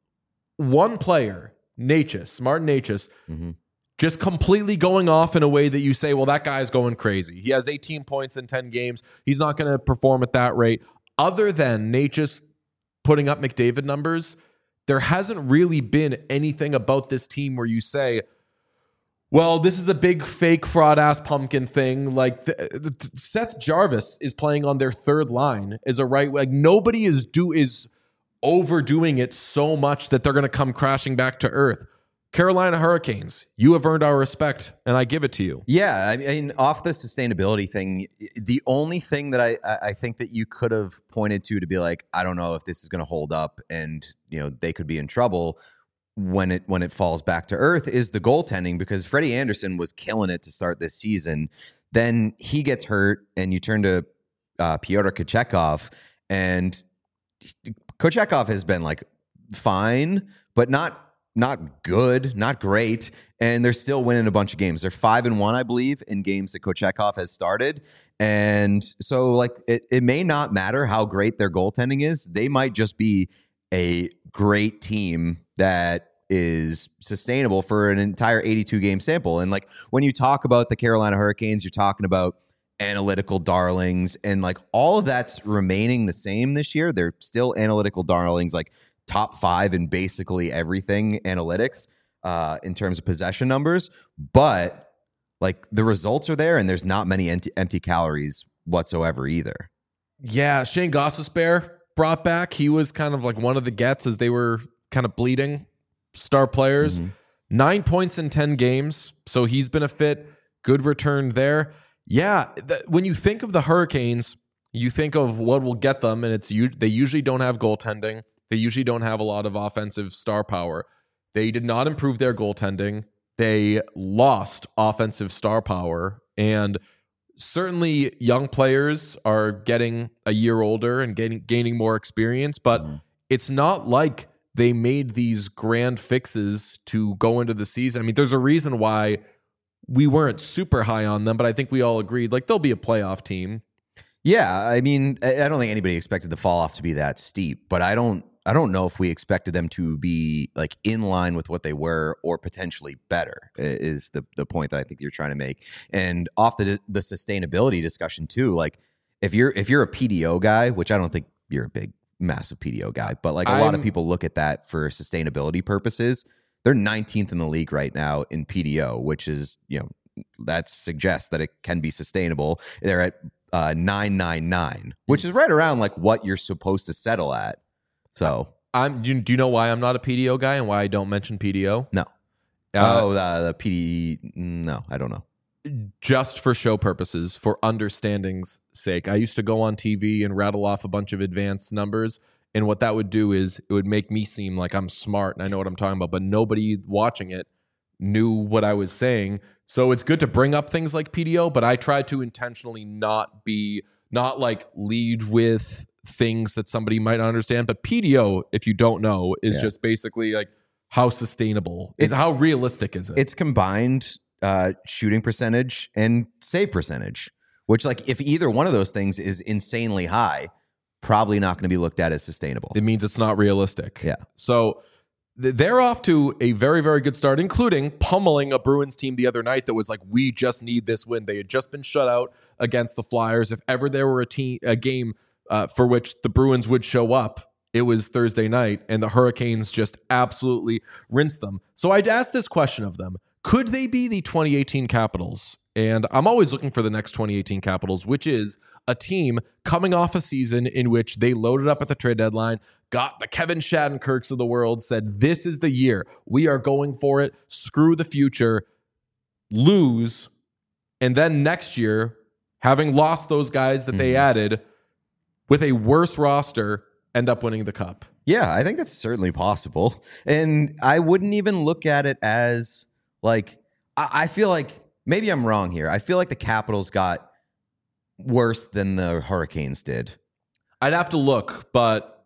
one player, Necas, Martin Necas, mm-hmm. just completely going off in a way that you say, well, that guy's going crazy. He has eighteen points in ten games. He's not going to perform at that rate. Other than Necas putting up McDavid numbers, there hasn't really been anything about this team where you say, well, this is a big fake fraud ass pumpkin thing. Like the, the, Seth Jarvis is playing on their third line as a right. Like nobody is do is overdoing it so much that they're going to come crashing back to earth. Carolina Hurricanes, you have earned our respect, and I give it to you. Yeah, I mean, off the sustainability thing, the only thing that I, I think that you could have pointed to to be like, I don't know if this is going to hold up, and you know they could be in trouble when it when it falls back to earth is the goaltending, because Freddie Anderson was killing it to start this season. Then he gets hurt, and you turn to uh, Pyotr Kochetkov, and Kochetkov has been like fine, but not not good, not great, and they're still winning a bunch of games. They're five and one, I believe, in games that Kochetkov has started. And so, like, it, it may not matter how great their goaltending is. They might just be a great team that is sustainable for an entire eighty-two game sample. And like, when you talk about the Carolina Hurricanes, you're talking about analytical darlings, and like all of that's remaining the same this year. They're still analytical darlings, like top five in basically everything analytics uh, in terms of possession numbers. But like the results are there, and there's not many empty, empty calories whatsoever either. Yeah, Shane Gostisbehere brought back. He was kind of like one of the gets as they were kind of bleeding star players. Mm-hmm. Nine points in ten games, so he's been a fit. Good return there. Yeah, th- when you think of the Hurricanes, you think of what will get them, and it's they usually don't have goaltending. They usually don't have a lot of offensive star power. They did not improve their goaltending. They lost offensive star power, and certainly young players are getting a year older and getting gaining more experience, but mm. it's not like they made these grand fixes to go into the season. I mean, there's a reason why we weren't super high on them, but I think we all agreed like they'll be a playoff team. Yeah, I mean, I don't think anybody expected the fall off to be that steep, but I don't I don't know if we expected them to be like in line with what they were or potentially better is the the point that I think you're trying to make. And off the the sustainability discussion too, like if you're if you're a P D O guy, which I don't think you're a big massive P D O guy, but like a I'm, lot of people look at that for sustainability purposes. They're nineteenth in the league right now in P D O, which is, you know, that suggests that it can be sustainable. They're at uh, nine ninety-nine, which is right around like what you're supposed to settle at. So I'm. Do you, do you know why I'm not a P D O guy and why I don't mention P D O? No. Uh, oh, the, the P D. No, I don't know. Just for show purposes, for understanding's sake, I used to go on T V and rattle off a bunch of advanced numbers, and what that would do is it would make me seem like I'm smart and I know what I'm talking about, but nobody watching it knew what I was saying. So it's good to bring up things like P D O, but I try to intentionally not be not like lead with things that somebody might not understand. But P D O, if you don't know, is yeah. just basically like how sustainable, it's, how realistic is it? It's combined uh, shooting percentage and save percentage, which like if either one of those things is insanely high, probably not going to be looked at as sustainable. It means it's not realistic. Yeah. So th- they're off to a very, very good start, including pummeling a Bruins team the other night that was like, we just need this win. They had just been shut out against the Flyers. If ever there were a team, a game uh, for which the Bruins would show up, it was Thursday night, and the Hurricanes just absolutely rinsed them. So I'd ask this question of them. Could they be the twenty eighteen Capitals? And I'm always looking for the next twenty eighteen Capitals, which is a team coming off a season in which they loaded up at the trade deadline, got the Kevin Shattenkirks of the world, said, this is the year. We are going for it. Screw the future. Lose. And then next year, having lost those guys that mm-hmm. they added with a worse roster, end up winning the cup. Yeah, I think that's certainly possible. And I wouldn't even look at it as like, I, I feel like maybe I'm wrong here. I feel like the Capitals got worse than the Hurricanes did. I'd have to look, but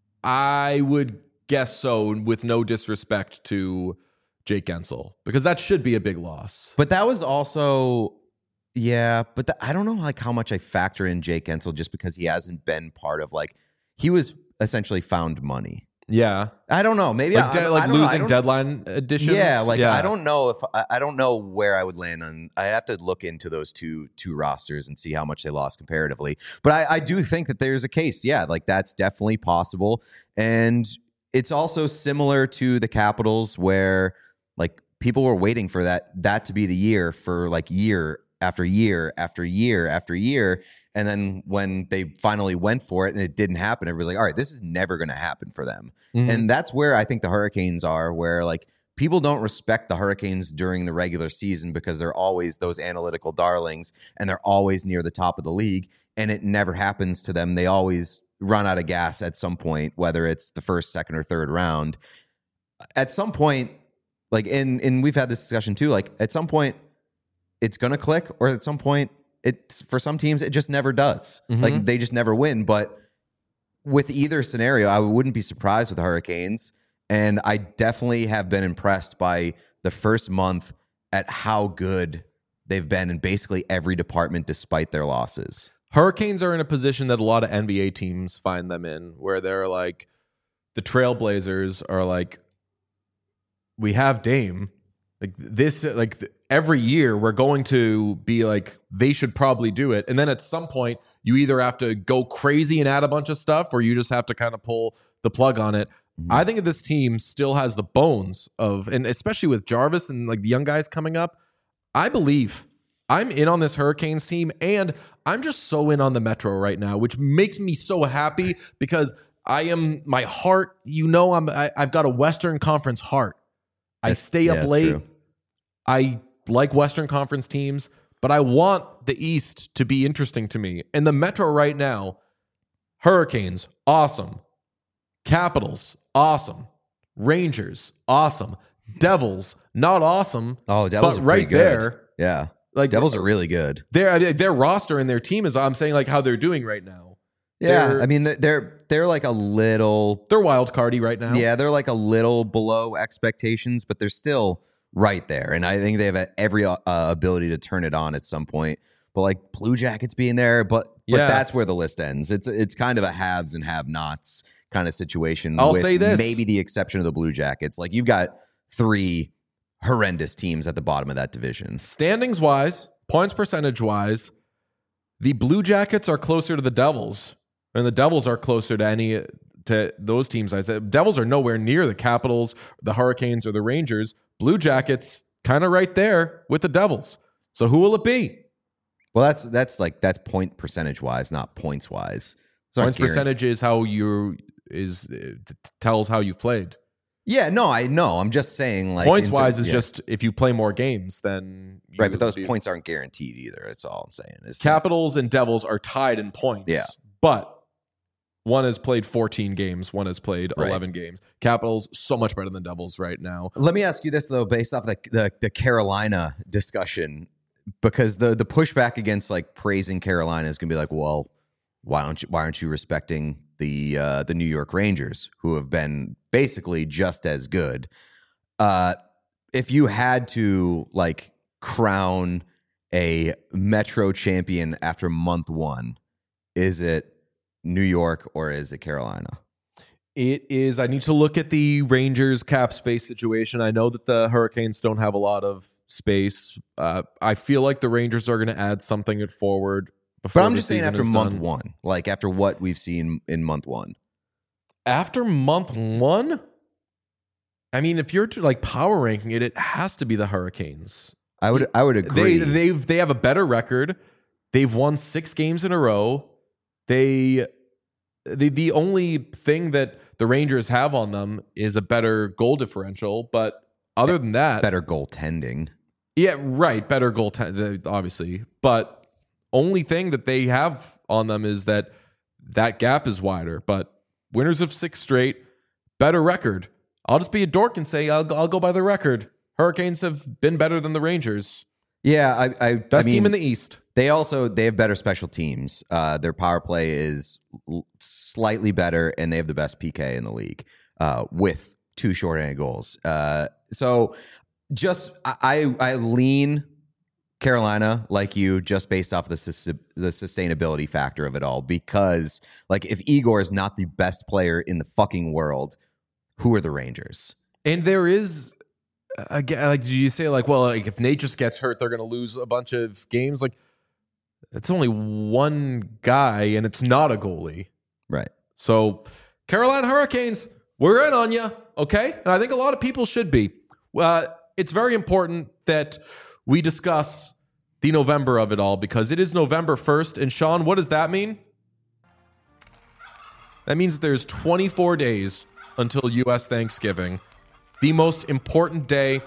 I would guess so, with no disrespect to Jake Guentzel, because that should be a big loss. But that was also, yeah, but the, I don't know like how much I factor in Jake Guentzel just because he hasn't been part of like, he was essentially found money. Yeah. I don't know. Maybe like, I, de- like I don't losing know. deadline editions. Yeah. Like yeah. I don't know if I, I don't know where I would land on. I have to look into those two two rosters and see how much they lost comparatively. But I, I do think that there's a case. Yeah. Like that's definitely possible. And it's also similar to the Capitals where like people were waiting for that, that to be the year for like year after year after year after year. And then when they finally went for it and it didn't happen, everybody's like, all right, this is never going to happen for them. Mm-hmm. And that's where I think the Hurricanes are, where like people don't respect the Hurricanes during the regular season because they're always those analytical darlings and they're always near the top of the league. And it never happens to them. They always run out of gas at some point, whether it's the first, second, or third round. At some point, like, and, and we've had this discussion too, like at some point it's going to click, or at some point It's for some teams, it just never does. Mhm. Like they just never win. But with either scenario, I wouldn't be surprised with the Hurricanes. And I definitely have been impressed by the first month at how good they've been in basically every department despite their losses. Hurricanes are in a position that a lot of N B A teams find them in, where they're like, the Trailblazers are like, we have Dame. Like this, like th- every year we're going to be like, they should probably do it. And then at some point, you either have to go crazy and add a bunch of stuff, or you just have to kind of pull the plug on it. Mm-hmm. I think that this team still has the bones of, and especially with Jarvis and like the young guys coming up, I believe I'm in on this Hurricanes team, and I'm just so in on the Metro right now, which makes me so happy because I am, my heart, you know, I'm, I, I've got a Western Conference heart. I That's, stay yeah, up late. True. I like Western Conference teams, but I want the East to be interesting to me. And the Metro right now, Hurricanes, awesome. Capitals, awesome. Rangers, awesome. Devils, not awesome. Oh, Devils but are right pretty good. there. Yeah. Like Devils are really good. Their their roster and their team is, I'm saying, like how they're doing right now. Yeah, They're, I mean they're they're like a little they're wild cardy right now. Yeah, they're like a little below expectations, but they're still right there, and I think they have every uh, ability to turn it on at some point. But like Blue Jackets being there, but but Yeah. that's where the list ends. It's it's kind of a haves and have-nots kind of situation. I'll with say this. maybe the exception of the Blue Jackets. Like you've got three horrendous teams at the bottom of that division. Standings wise, points percentage wise, the Blue Jackets are closer to the Devils, and the Devils are closer to any to those teams. I said Devils are nowhere near the Capitals, the Hurricanes, or the Rangers. Blue Jackets kind of right there with the Devils. So who will it be? Well, that's that's like that's point percentage wise, not points wise. Points percentage is how you is uh, tells how you've played. Yeah, no, I know. I'm just saying, like Points in terms- wise is yeah. just if you play more games, then you right. But those you- points aren't guaranteed either. That's all I'm saying. Is that- Capitals and Devils are tied in points. Yeah. But one has played fourteen games, one has played Right. eleven games. Capitals so much better than Devils right now. Let me ask you this though, based off the the, the Carolina discussion, because the the pushback against like praising Carolina is going to be like, well, why don't you why aren't you respecting the uh, the New York Rangers, who have been basically just as good? Uh, if you had to like crown a Metro champion after month one, is it New York or is it Carolina? It is, I need to look at the Rangers cap space situation. I know that the Hurricanes don't have a lot of space. Uh, I feel like the Rangers are going to add something at forward before But I'm the just saying season after is month done. one, like after what we've seen in month one. After month one, I mean, if you're to like power ranking it, it has to be the Hurricanes. I would I would agree. They they've they have a better record. They've won six games in a row. They the the only thing that the Rangers have on them is a better goal differential, but other than that, better goaltending. yeah, right, better goal obviously, but only thing that they have on them is that that gap is wider. But winners of six straight, better record. I'll just be a dork and say I'll I'll go by the record. Hurricanes have been better than the Rangers. Yeah, I, I Best I mean, team in the East. They also they have better special teams. Uh, their power play is l- slightly better, and they have the best P K in the league uh, with two shorthanded goals. Uh, so just I I lean Carolina like you just based off the sus- the sustainability factor of it all, because like if Igor is not the best player in the fucking world, who are the Rangers? And there is, again, like, do you say like, well, like if Nate just gets hurt, they're going to lose a bunch of games? Like, it's only one guy, and it's not a goalie. Right. So, Carolina Hurricanes, we're in on you, okay? And I think a lot of people should be. Uh, it's very important that we discuss the November of it all, because it is November first. And Sean, what does that mean? That means that there's twenty-four days until U S Thanksgiving, the most important day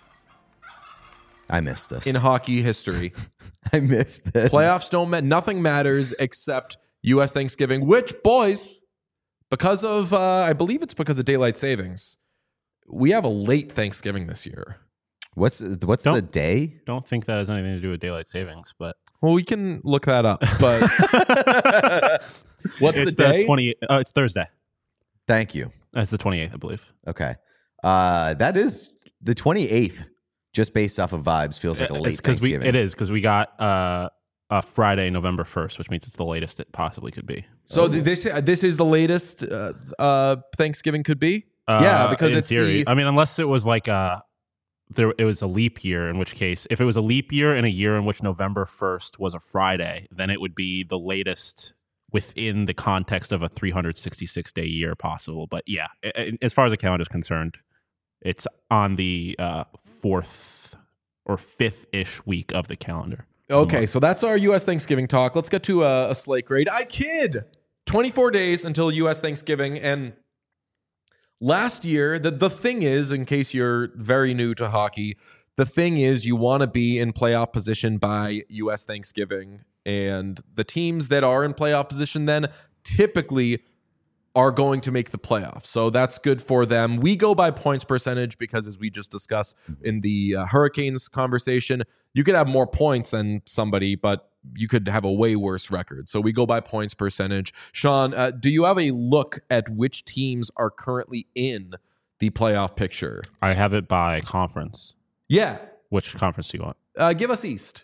I missed this. in hockey history. I missed this. Playoffs don't matter. Nothing matters except U S Thanksgiving, which, boys, because of, uh, I believe it's because of daylight savings, we have a late Thanksgiving this year. What's what's Don't- the day? Don't think that has anything to do with daylight savings, but Well, we can look that up. But what's it's the day? twenty. Uh, it's Thursday. Thank you. That's the twenty-eighth, I believe. Okay. Uh, that is the twenty-eighth, just based off of vibes, feels like a late It's 'cause we, Thanksgiving. it is because we got uh, a Friday, November first, which means it's the latest it possibly could be. So th- this this is the latest uh, uh, Thanksgiving could be. Uh, Yeah, because in it's theory. the- I mean, unless it was like a there, it was a leap year. In which case, if it was a leap year in a year in which November first was a Friday, then it would be the latest within the context of a three hundred sixty-six day year possible. But yeah, a- a- as far as the calendar is concerned, it's on the uh, fourth or fifth ish week of the calendar. Okay, so that's our U S Thanksgiving talk. Let's get to a, a slate grade. I kid. twenty-four days until U S Thanksgiving. And last year, the, the thing is, in case you're very new to hockey, the thing is you want to be in playoff position by U S Thanksgiving. And the teams that are in playoff position then typically are going to make the playoffs. So that's good for them. We go by points percentage because, as we just discussed in the uh, Hurricanes conversation, you could have more points than somebody, but you could have a way worse record. So we go by points percentage. Sean, uh, do you have a look at which teams are currently in the playoff picture? I have it by conference. Yeah. Which conference do you want? Uh, give us East.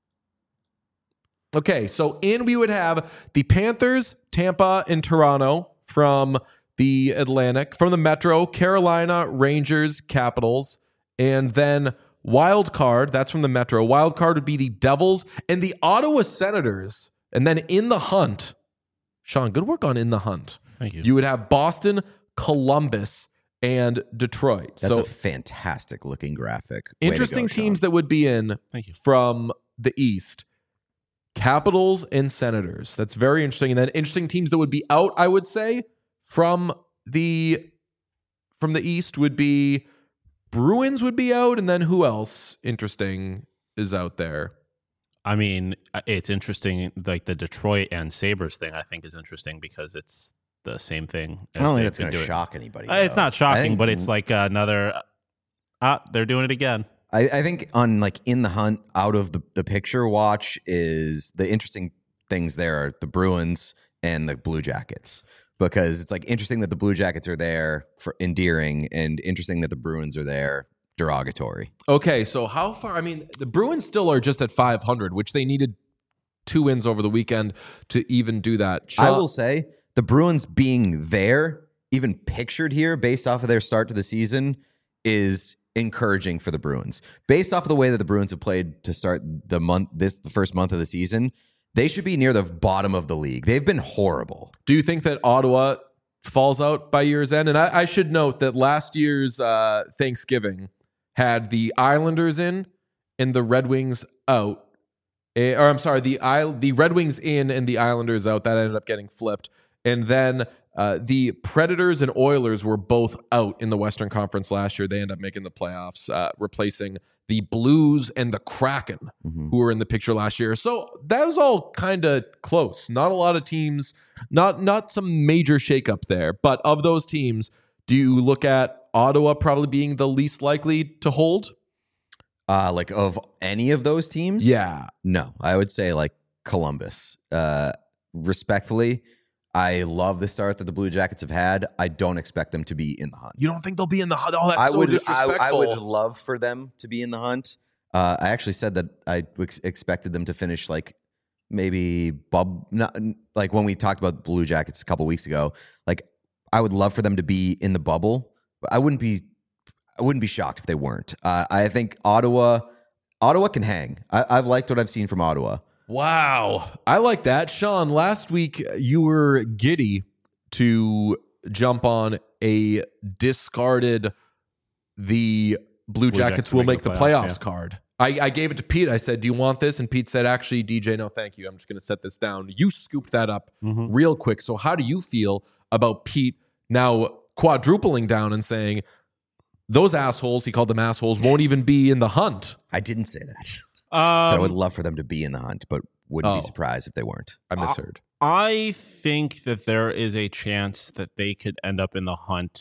Okay, so in we would have the Panthers, Tampa, and Toronto from the Atlantic, from the Metro, Carolina, Rangers, Capitals, and then wild card, that's from the Metro. Wild card would be the Devils and the Ottawa Senators. And then in the hunt, Sean, good work on in the hunt. Thank you. You would have Boston, Columbus, and Detroit. That's so a fantastic looking graphic. Way to interesting go, teams Sean. that would be in Thank you. from the East. Capitals and Senators. That's very interesting. And then interesting teams that would be out, I would say, from the from the East would be Bruins would be out, and then who else interesting is out there? I mean, it's interesting. Like the Detroit and Sabres thing, I think is interesting because it's the same thing. I don't think they've that's been going to doing. shock anybody. Uh, It's though. not I shocking, think- but it's like another. Ah, they're doing it again. I, I think on like in the hunt out of the, the picture watch is the interesting things there are the Bruins and the Blue Jackets, because it's like interesting that the Blue Jackets are there for endearing and interesting that the Bruins are there derogatory. Okay, so how far? I mean, the Bruins still are just at five hundred, which they needed two wins over the weekend to even do that. I Sean- will say the Bruins being there, even pictured here based off of their start to the season, is encouraging for the Bruins. Based off of the way that the Bruins have played to start the month, this the first month of the season, they should be near the bottom of the league. They've been horrible. Do you think that Ottawa falls out by year's end? And I, I should note that last year's uh, Thanksgiving had the Islanders in and the Red Wings out. Eh, or I'm sorry, the Isle, the Red Wings in and the Islanders out. That ended up getting flipped. And then uh, the Predators and Oilers were both out in the Western Conference last year. They ended up making the playoffs, uh, replacing the Blues and the Kraken, Mhm. who were in the picture last year. So that was all kind of close. Not a lot of teams, not not some major shakeup there. But of those teams, do you look at Ottawa probably being the least likely to hold? Uh, like of any of those teams? Yeah. No, I would say like Columbus. Uh, respectfully, I love the start that the Blue Jackets have had. I don't expect them to be in the hunt. You don't think they'll be in the hunt? Oh, that's I so would, I, disrespectful. I would love for them to be in the hunt. Uh, I actually said that I ex- expected them to finish like maybe bub, not like when we talked about Blue Jackets a couple weeks ago. Like I would love for them to be in the bubble, but I wouldn't be. I wouldn't be shocked if they weren't. Uh, I think Ottawa, Ottawa can hang. I, I've liked what I've seen from Ottawa. Wow. I like that. Sean, last week you were giddy to jump on a discarded the Blue, Jackets, Jackets will make make the the playoffs, playoffs yeah. card. I, I gave it to Pete. I said, do you want this? And Pete said, actually, D J, no, thank you. I'm just going to set this down. You scooped that up Mhm. real quick. So how do you feel about Pete now quadrupling down and saying, those assholes, he called them assholes, won't even be in the hunt? I didn't say that. So I would Um, love for them to be in the hunt, but wouldn't Oh. be surprised if they weren't. I misheard. I think that there is a chance that they could end up in the hunt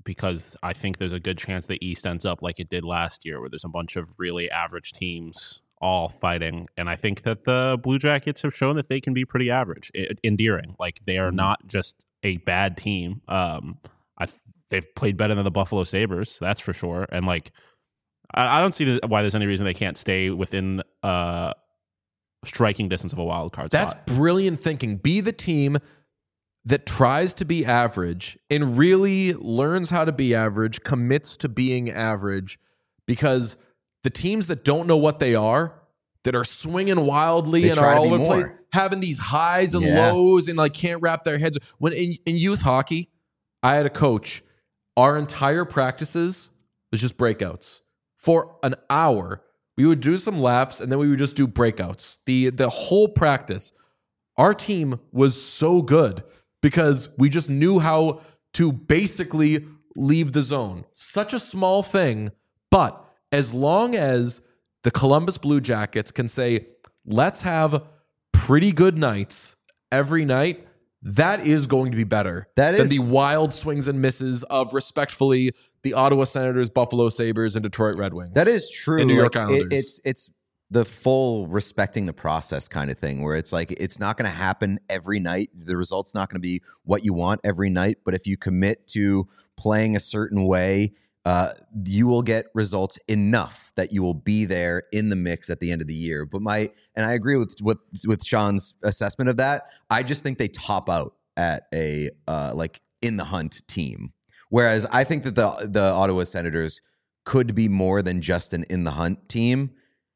because I think there's a good chance the East ends up like it did last year, where there's a bunch of really average teams all fighting. And I think that the Blue Jackets have shown that they can be pretty average, I- endearing. Like, they are not just a bad team. Um, I they've played better than the Buffalo Sabres, that's for sure. And like, I, I don't see why there's any reason they can't stay within uh, striking distance of a wild card That's spot. brilliant thinking. Be the team that tries to be average and really learns how to be average, commits to being average, because the teams that don't know what they are, that are swinging wildly They and try are to all be over the place, more. having these highs and Yeah. lows and like can't wrap their heads. When in, in youth hockey, I had a coach, our entire practices was just breakouts. For an hour, we would do some laps and then we would just do breakouts. The the whole practice, our team was so good because we just knew how to basically leave the zone. Such a small thing, but as long as the Columbus Blue Jackets can say, let's have pretty good nights every night, that is going to be better That than is- the wild swings and misses of, respectfully, the Ottawa Senators, Buffalo Sabres, and Detroit Red Wings. That is true. And New York Like, it- Islanders. it's it's the full respecting the process kind of thing, where it's like it's not going to happen every night. The result's not going to be what you want every night, but if you commit to playing a certain way, uh, you will get results enough that you will be there in the mix at the end of the year. But my and I agree with with with Sean's assessment of that. I just think they top out at a uh, like in the hunt team. Whereas I think that the the Ottawa Senators could be more than just an in the hunt team.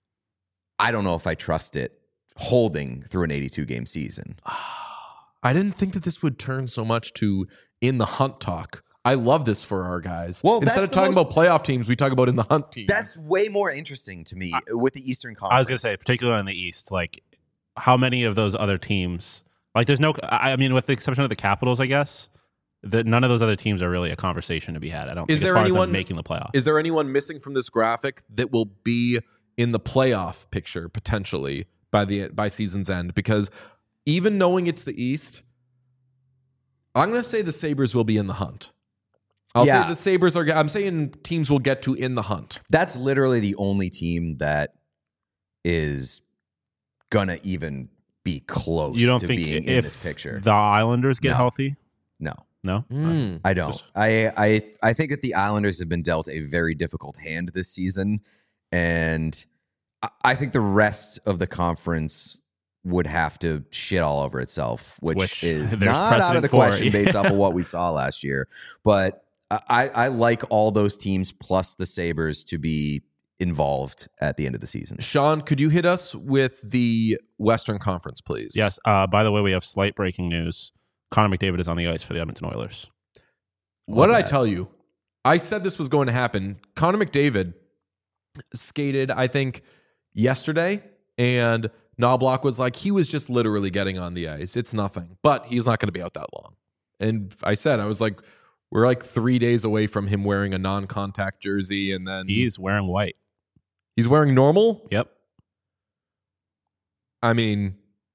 I don't know if I trust it holding through an eighty-two game season. I didn't think that this would turn so much to in the hunt talk. I love this for our guys. Well, Instead that's of the talking most- about playoff teams, we talk about in the hunt teams. That's way more interesting to me with the Eastern Conference. I was going to say, particularly in the East, like how many of those other teams, like there's no, I I mean, with the exception of the Capitals, I guess, that none of those other teams are really a conversation to be had. I don't Is think, there as far anyone- as them making the playoffs. Is there anyone missing from this graphic that will be in the playoff picture potentially by the by season's end? Because even knowing it's the East, I'm going to say the Sabres will be in the hunt. I'll Yeah. say the Sabres are. I'm saying teams will get to in the hunt. That's literally the only team that is gonna even be close you don't to think being if in this picture. the Islanders get No. healthy? No. No? Mm. I don't. Just- I, I I think that the Islanders have been dealt a very difficult hand this season, and I, I think the rest of the conference would have to shit all over itself, which, Which is there's not out of the precedent for, question based yeah. off of what we saw last year. But I, I like all those teams plus the Sabres to be involved at the end of the season. Sean, could you hit us with the Western Conference, please? Yes. Uh, by the way, we have slight breaking news. Connor McDavid is on the ice for the Edmonton Oilers. What did Love I that. tell you? I said this was going to happen. Connor McDavid skated, I think, yesterday, and Knobloch was like, he was just literally getting on the ice. It's nothing, but he's not going to be out that long. And I said, I was like, we're like three days away from him wearing a non-contact jersey, and then He's wearing white. he's wearing normal. Yep. I mean,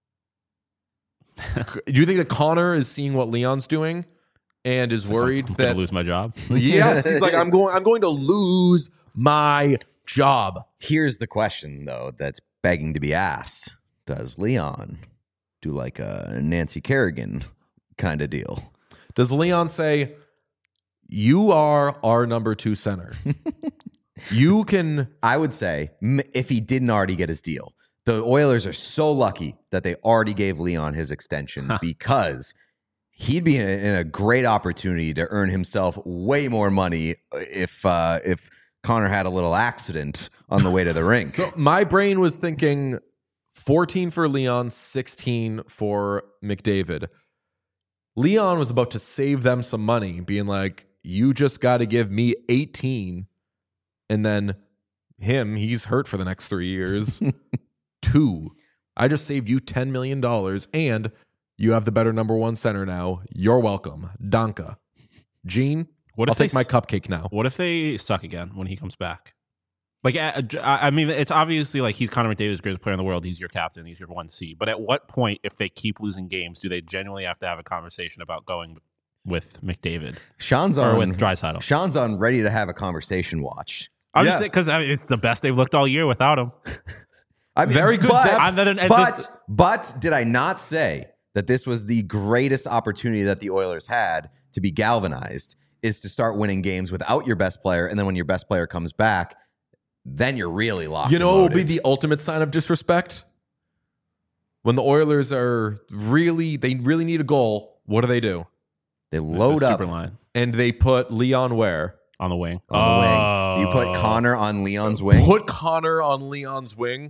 do you think that Connor is seeing what Leon's doing and is worried I'm that gonna lose my job. yes, he's like, I'm going, I'm going to lose my job. Here's the question, though, that's begging to be asked. Does Leon do like a Nancy Kerrigan kind of deal? Does Leon say, you are our number two center? You can, I would say, m- if he didn't already get his deal, the Oilers are so lucky that they already gave Leon his extension because he'd be in a, in a great opportunity to earn himself way more money if uh, if Connor had a little accident on the way to the rink. so my brain was thinking fourteen for Leon, sixteen for McDavid. Leon was about to save them some money, being like, you just got to give me eighteen. And then him, he's hurt for the next three years. Two. I just saved you ten million dollars, and you have the better number one center now. You're welcome. Danka. Gene, What I'll if they take my s- cupcake now. What if they suck again when he comes back? Like, I, I mean, it's obviously like he's Connor McDavid's greatest player in the world. He's your captain. He's your one C. But at what point, if they keep losing games, do they genuinely have to have a conversation about going with McDavid Sean's or on with Draisaitl. Sean's on ready to have a conversation watch. I'm Yes. just because I mean, it's the best they've looked all year without him. I mean, Very good but, depth. And then- and but, this- but did I not say that this was the greatest opportunity that the Oilers had to be galvanized, is to start winning games without your best player, and then when your best player comes back, then you're really locked. You know and what will be loaded. the ultimate sign of disrespect? When the Oilers are really, they really need a goal, what do they do? They load the up super line And they put Leon where? on the wing. on the wing. You put Oh. Connor on Leon's wing. Put Connor on Leon's wing.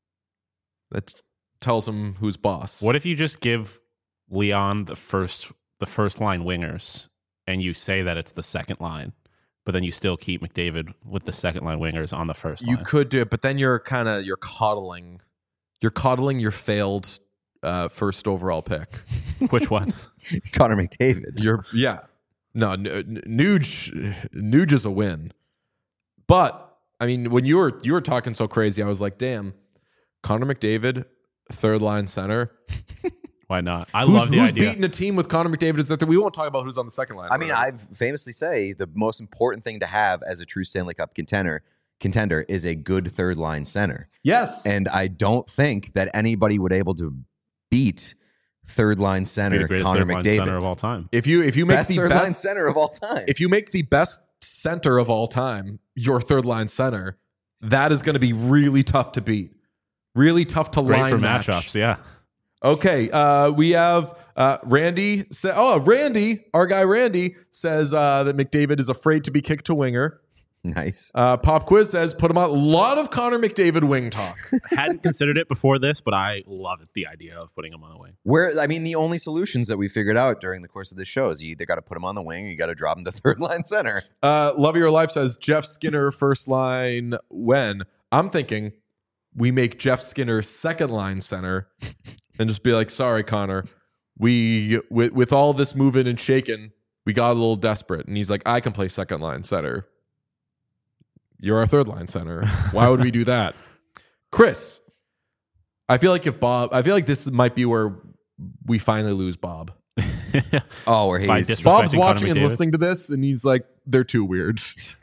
That tells him who's boss. What if you just give Leon the first the first line wingers, and you say that it's the second line, but then you still keep McDavid with the second line wingers on the first You line? could do it, but then you're kind of you're coddling, you're coddling your failed uh, first overall pick. Which one? Connor McDavid. You're yeah, no, N- N- Nuge, Nuge is a win, but I mean when you were you were talking so crazy, I was like, damn, Connor McDavid, third line center. Why not? I who's, love the who's idea. beating a team with Connor McDavid is that we won't talk about who's on the second line. I mean, Whatever. I famously say the most important thing to have as a true Stanley Cup contender contender is a good third line center. yes, And I don't think that anybody would able to beat third line Be center the greatest Connor third line McDavid. center of all time. if you if you make Best the third best line center of all time. if you make the best center of all time your third line center, that is going to be really tough to beat. Really tough to Great line for match. matchups. Yeah. Okay, uh, we have uh, Randy. Say, oh, Randy, our guy Randy says uh, that McDavid is afraid to be kicked to winger. Nice. Uh, Pop Quiz says put him on. A lot of Connor McDavid wing talk. Hadn't considered it before this, but I love it, the idea of putting him on the wing. Where I mean, the only solutions that we figured out during the course of this show is you either got to put him on the wing or you got to drop him to third line center. Uh, Love of Your Life says Jeff Skinner first line when. I'm thinking we make Jeff Skinner second line center and just be like, sorry, Connor, we with, with all this moving and shaking, we got a little desperate. And he's like, I can play second line center. You're our third line center. Why would we do that? Chris, I feel like if Bob, I feel like this might be where we finally lose Bob. Oh, where By he's dis- Bob's Disrespecting watching Connor and McDavid? listening to this, and he's like, they're too weird.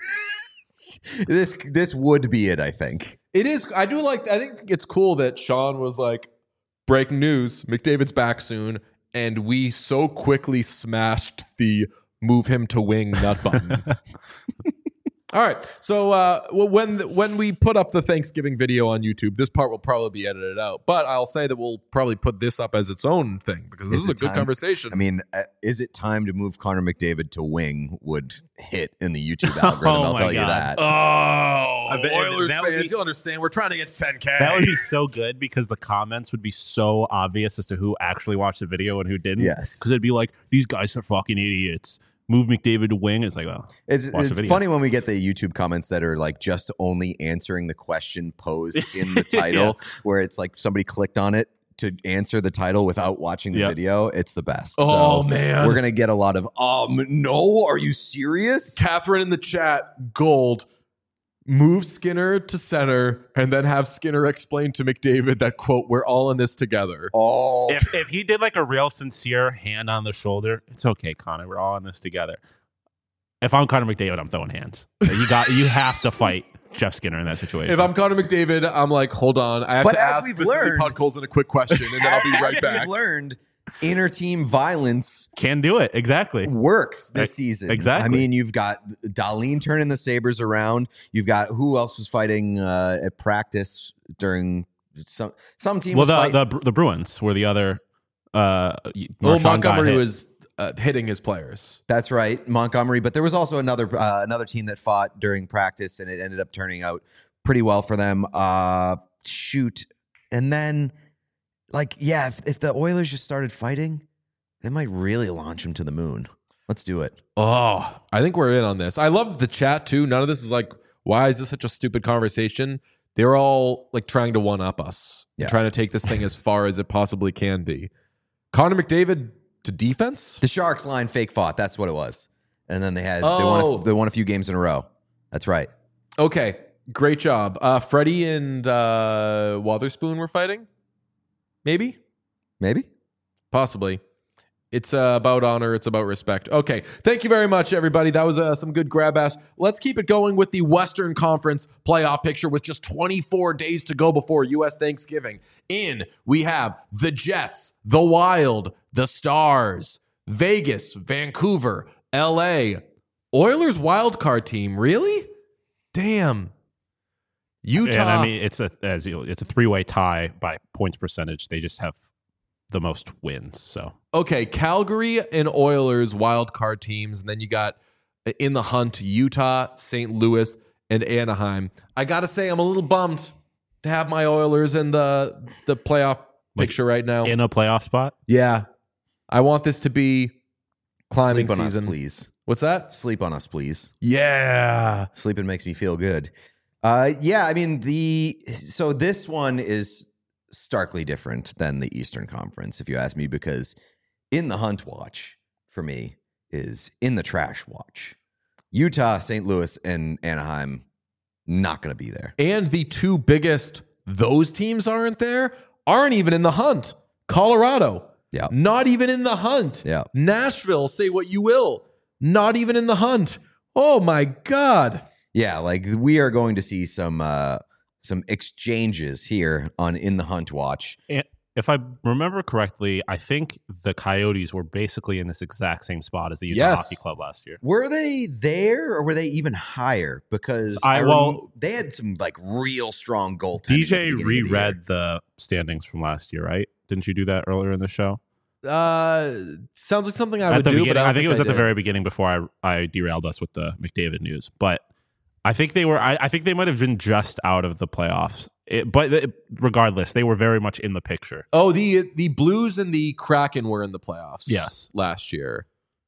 this this would be it, I think. It is. I do like. I think it's cool that Sean was like, breaking news: McDavid's back soon, and we so quickly smashed the move him to wing nut button. All right. So uh, well, when when we put up the Thanksgiving video on YouTube, this part will probably be edited out. But I'll say that we'll probably put this up as its own thing because this Is is, a it good time? conversation. I mean, uh, is it time to move Connor McDavid to wing would hit in the YouTube algorithm. Oh I'll my tell you God. that. oh, I bet- Oilers that would fans, be- you'll understand. We're trying to get to ten K. That would be so good because the comments would be so obvious as to who actually watched the video and who didn't. Yes. Because it'd be like, these guys are fucking idiots. Move McDavid to wing. It's like, well, It's, watch the it's video. funny when we get the YouTube comments that are like just only answering the question posed in the title, where it's like somebody clicked on it to answer the title without watching the Yep. video. It's the best. Oh, So man. we're gonna get a lot of um no, are you serious? Catherine in the chat, gold. Move Skinner to center and then have Skinner explain to McDavid that, quote, we're all in this together. Oh, if, if he did like a real sincere hand on the shoulder, it's okay, Connor. We're all in this together. If I'm Connor McDavid, I'm throwing hands. You got, you have to fight Jeff Skinner in that situation. If I'm Connor McDavid, I'm like, hold on. I have But to as ask we've Vasily learned- Podkolzin a quick question, and then I'll be As right we've back. learned inner team violence Can do it exactly. works this Ex- season. exactly. I mean, you've got Darlene turning the Sabres around. You've got who else was fighting uh, at practice during some some team Well, was the, fighting. the the Bruins were the other. Uh, Well, Marchand got Montgomery hit. was uh, hitting his players. That's right, Montgomery. But there was also another uh, another team that fought during practice, and it ended up turning out pretty well for them. Uh, shoot, and then like yeah, if, if the Oilers just started fighting, they might really launch them to the moon. Let's do it. Oh, I think we're in on this. I love the chat too. None of this is like, why is this such a stupid conversation? They're all like trying to one up us, Yeah. trying to take this thing as far as it possibly can be. Connor McDavid to defense? The Sharks line fake fought. That's what it was. And then they had they Oh. won a, they won a few games in a row. That's right. Okay, great job. Uh, Freddie and uh, Wotherspoon were fighting? Maybe? Maybe. Possibly. It's uh, about honor. It's about respect. Okay. Thank you very much, everybody. That was uh, some good grab ass. Let's keep it going with the Western Conference playoff picture with just twenty-four days to go before U S Thanksgiving. In, we have the Jets, the Wild, the Stars, Vegas, Vancouver, L A, Oilers wildcard team. Really? Damn. Utah. And I mean, it's a as you, it's a three way tie by points percentage. They just have the most wins. So okay, Calgary and Oilers wildcard teams, and then you got in the hunt Utah, Saint Louis, and Anaheim. I gotta say, I'm a little bummed to have my Oilers in the the playoff Like, picture right now. in a playoff spot. Yeah, I want this to be climbing Sleep on season. us, please. What's that? Sleep on us, please. Yeah. Sleeping makes me feel good. Uh, yeah, I mean the so this one is starkly different than the Eastern Conference, if you ask me, because in the hunt watch for me is in the trash watch. Utah, Saint Louis, and Anaheim not going to be there. And the two biggest, those teams aren't there, aren't even in the hunt. Colorado, Yeah, not even in the hunt. yeah. Nashville, say what you will, not even in the hunt. Oh my God. Yeah, like we are going to see some uh, some exchanges here on In the Hunt Watch. And if I remember correctly, I think the Coyotes were basically in this exact same spot as the Utah Yes. Hockey Club last year. Were they there or were they even higher? Because I- I, rem- well- they had some like real strong goaltending. D at J the beginning of the year. reread the standings from last year, right? Didn't you do that earlier in the show? Uh, sounds like something I at would the do, but beginning, I, I, don't think it was I at the did. very beginning before I I derailed us with the McDavid news. But I think they were. I, I think they might have been just out of the playoffs. It, but it, regardless, they were very much in the picture. Oh, the the Blues and the Kraken were in the playoffs. Yes. last year,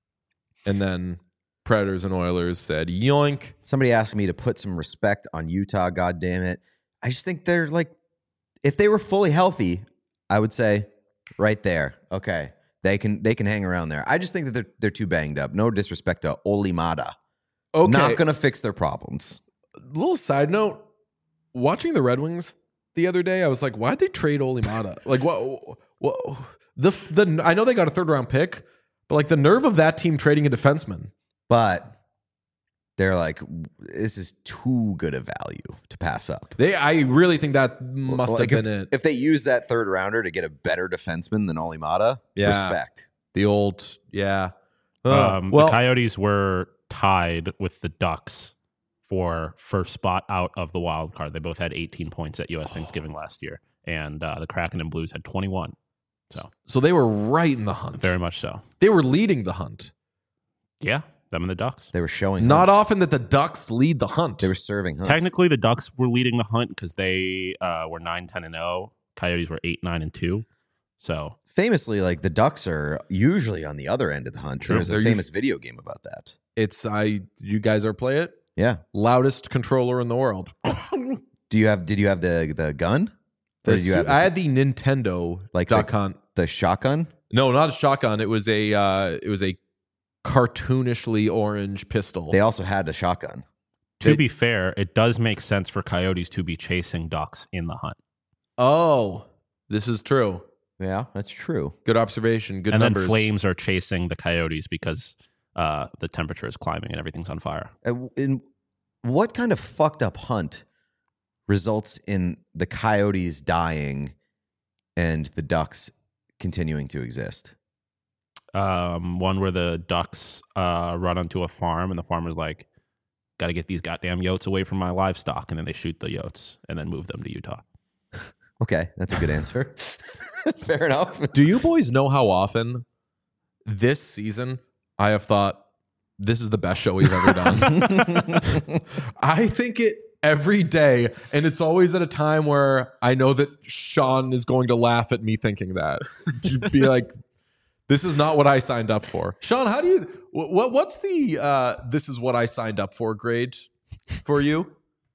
and then Predators and Oilers said yoink. Somebody asked me to put some respect on Utah. God damn it! I just think they're like, if they were fully healthy, I would say right there. Okay, they can they can hang around there. I just think that they're they're too banged up. No disrespect to Olimata. Okay, Not gonna fix their problems. little side note. Watching the Red Wings the other day, I was like, why'd they trade Olimata? Like, what? What? The the I know they got a third round pick, but like the nerve of that team trading a defenseman. But they're like, this is too good a value to pass up. They, I really think that must Like, have if, been it. if they use that third rounder to get a better defenseman than Olimata, Yeah. respect. The old, yeah. Oh, Um, well, the Coyotes were tied with the Ducks for first spot out of the wild card. They both had eighteen points at U S Thanksgiving last year, and uh, the Kraken and Blues had twenty-one. So so they were right in the hunt. very much so. They were leading the hunt. Yeah, them and the Ducks. They were showing Not hunt. often that the Ducks lead the hunt. They were serving hunt. Technically, the Ducks were leading the hunt because they uh, were nine, ten, and oh. Coyotes were eight, nine, and two. So Famously, like the Ducks are usually on the other end of the hunt. True. There's a They're famous video game about that. It's I. You guys ever play it? Yeah. Loudest controller in the world. Do you have? Did you have the the gun? Or The did you su- have the, I had the Nintendo Like Duck the- Hunt. the shotgun? No, not a shotgun. It was a. Uh, it was a cartoonishly orange pistol. They also had a shotgun. to They- be fair, it does make sense for Coyotes to be chasing Ducks in the hunt. oh, this is true. Yeah, that's true. Good observation. Good and numbers. then Flames are chasing the Coyotes because uh, the temperature is climbing and everything's on fire. Uh, In what kind of fucked up hunt results in the Coyotes dying and the Ducks continuing to exist? Um, one where the Ducks uh, run onto a farm and the farmer's like, got to get these goddamn yotes away from my livestock. And then they shoot the yotes and then move them to Utah. Okay, that's a good answer. Fair enough. Do you boys know how often this season I have thought this is the best show we've ever done? I think it every day, and it's always at a time where I know that Sean is going to laugh at me thinking that. Just be like, this is not what I signed up for. Sean, how do you what what's the uh this is what I signed up for grade for you?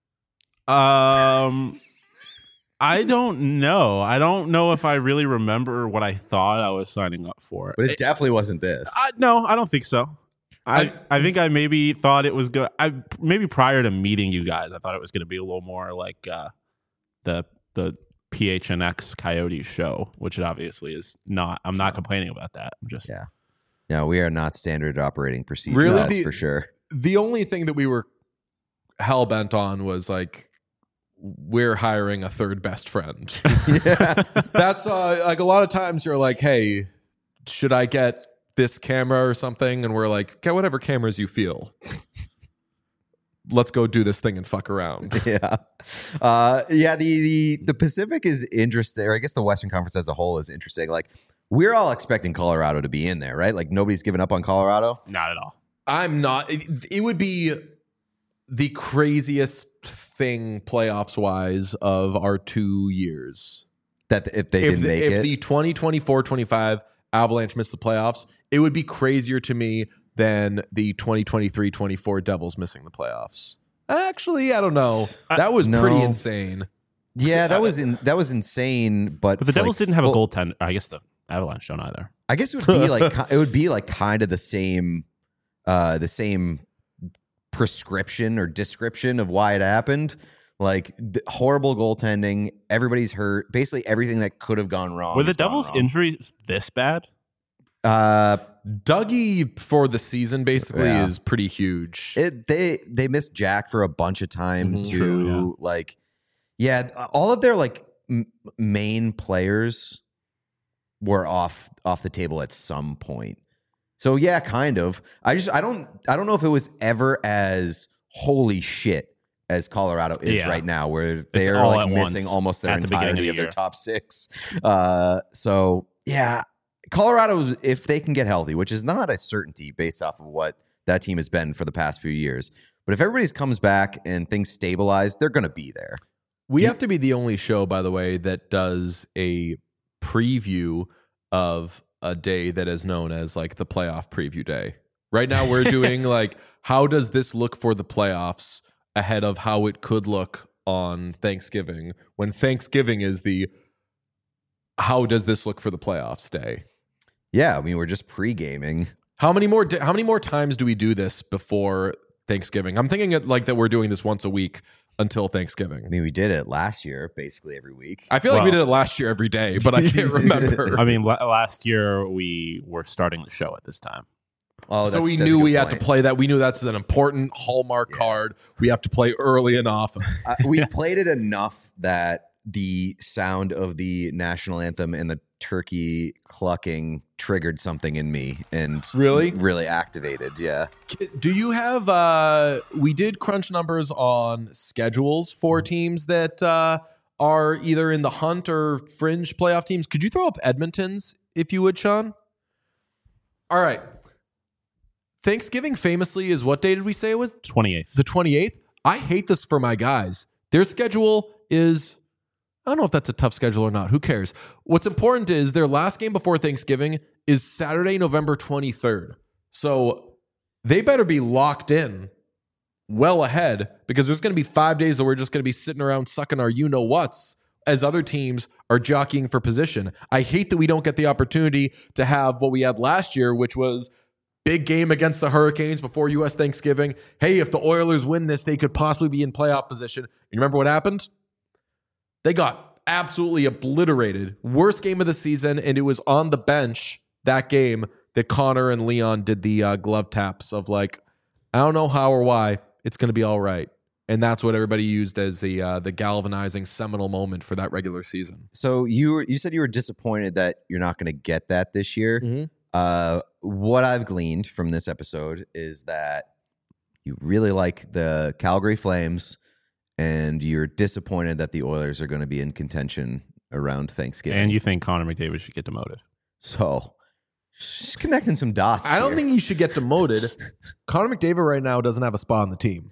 Um, I don't know. I don't know if I really remember what I thought I was signing up for. But it definitely wasn't this. I, no, I don't think so. I, I think I maybe thought it was good. I maybe prior to meeting you guys, I thought it was going to be a little more like uh, the the P H N X Coyotes show, which it obviously is not. I'm not complaining about that. I'm just Yeah. No, we are not standard operating procedure. Really? That's The- for sure. The only thing that we were hell bent on was like we're hiring a third best friend. Yeah. That's uh, like a lot of times you're like, hey, should I get this camera or something? And we're like, get whatever cameras you feel. Let's go do this thing and fuck around. Yeah. Uh, yeah, the, the the Pacific is interesting, or I guess the Western Conference as a whole is interesting. Like, we're all expecting Colorado to be in there, right? Like, nobody's given up on Colorado. Not at all. I'm not. It, it would be the craziest thing playoffs wise of our two years. That if they If didn't the, make if it. the twenty twenty-four twenty-five Avalanche missed the playoffs, it would be crazier to me than the twenty twenty-three twenty-four Devils missing the playoffs. Actually, I don't know. That was No. pretty insane. yeah, that was in, that was insane. But, But the Devils like, didn't have full- a goaltender. I guess the Avalanche don't either. I guess it would be like it would be like kind of the same, uh, the same prescription or description of why it happened. Like th- horrible goaltending. Everybody's hurt. Basically, everything that could have gone wrong. Were the has gone Devils' wrong. injuries this bad? Uh, Dougie for the season basically Yeah. is pretty huge. it they they missed Jack for a bunch of time Mhm. too. True, Like, yeah, all of their like m- main players were off off the table at some point. So yeah, kind of. I just I don't I don't know if it was ever as holy shit as Colorado is Yeah. right now, where they're all like at missing once almost their at the beginning of entirety the of, their year. top six. Uh, so yeah, Colorado, if they can get healthy, which is not a certainty based off of what that team has been for the past few years, but if everybody comes back and things stabilize, they're going to be there. We have to be the only show, by the way, that does a preview of a day that is known as like the playoff preview day. Right now, we're doing like, how does this look for the playoffs ahead of how it could look on Thanksgiving, when Thanksgiving is the how does this look for the playoffs day? Yeah, I mean, we're just pre-gaming. How many more? How many more times do we do this before Thanksgiving? I'm thinking it like that we're doing this once a week until Thanksgiving. I mean, we did it last year, basically every week. I feel like we Well- did it last year every day, but I can't remember. I mean, la- last year we were starting the show at this time. Oh, so that's- we that's a knew good we had point. to play that. We knew that's an important hallmark Yeah. card. We have to play early and often. Uh, we played it enough that the sound of the national anthem and the turkey clucking triggered something in me and Really? really activated. Yeah. Do you have? uh We did crunch numbers on schedules for teams that uh are either in the hunt or fringe playoff teams. Could you throw up Edmonton's if you would, Sean? All right. Thanksgiving famously is what day did we say it was? twenty-eighth. The twenty-eighth. I hate this for my guys. Their schedule is, I don't know if that's a tough schedule or not. Who cares? What's important is their last game before Thanksgiving is Saturday, November twenty-third. So they better be locked in well ahead, because there's going to be five days that we're just going to be sitting around sucking our you-know-whats as other teams are jockeying for position. I hate that we don't get the opportunity to have what we had last year, which was big game against the Hurricanes before U S Thanksgiving. Hey, if the Oilers win this, they could possibly be in playoff position. You remember what happened? They got absolutely obliterated. Worst game of the season, and it was on the bench that game that Connor and Leon did the uh, glove taps of like, I don't know how or why, it's going to be all right. And that's what everybody used as the uh, the galvanizing seminal moment for that regular season. So you were, you said you were disappointed that you're not going to get that this year. Mm-hmm. Uh, what I've gleaned from this episode is that you really like the Calgary Flames, and you're disappointed that the Oilers are going to be in contention around Thanksgiving. And you think Connor McDavid should get demoted? so just connecting some dots. I don't here. think he should get demoted. Connor McDavid right now doesn't have a spot on the team.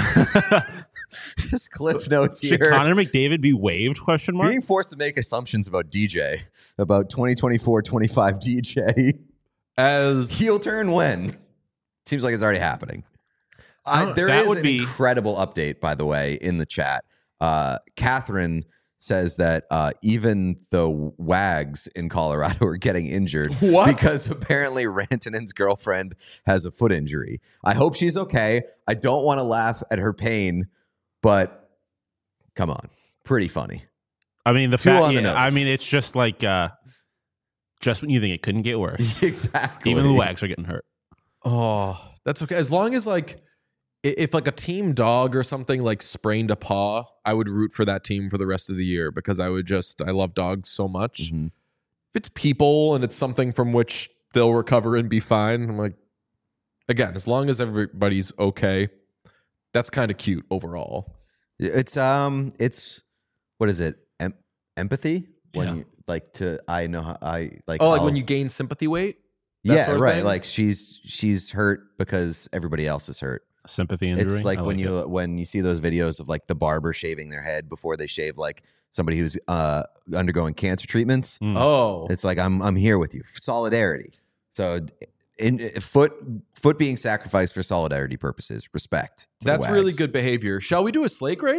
just cliff notes Should here. Connor McDavid be waived? Question mark. Being forced to make assumptions about D J, about twenty twenty-four twenty-five D J. As Heel turn when? Seems like it's already happening. I, Oh, there that is would an be- incredible update, by the way, in the chat. Uh, Catherine says that uh, even the Wags in Colorado are getting injured What? because apparently Rantanen's girlfriend has a foot injury. I hope she's okay. I don't want to laugh at her pain, but come on. Pretty funny. I mean, the Two fact. on the yeah, nose. I mean, it's just like uh, Just when you think it couldn't get worse. Exactly. Even the Wags are getting hurt. Oh, that's okay. As long as like, i- if like a team dog or something like sprained a paw, I would root for that team for the rest of the year because I would just, I love dogs so much. Mhm. If it's people and it's something from which they'll recover and be fine, I'm like, again, as long as everybody's okay, that's kind of cute overall. It's um, it's what is it? Em- empathy when Yeah. you, like to I know how I like. Oh, like I'll- when you gain sympathy weight? That yeah, sort of right. thing? Like she's she's hurt because everybody else is hurt. Sympathy injury. It's like I when it. you when you see those videos of like the barber shaving their head before they shave like somebody who's uh undergoing cancer treatments. Mm. Oh, It's like I'm I'm here with you. Solidarity. So in, in foot foot being sacrificed for solidarity purposes. Respect. to the that's really Wags. good behavior. Shall we do a slate grade?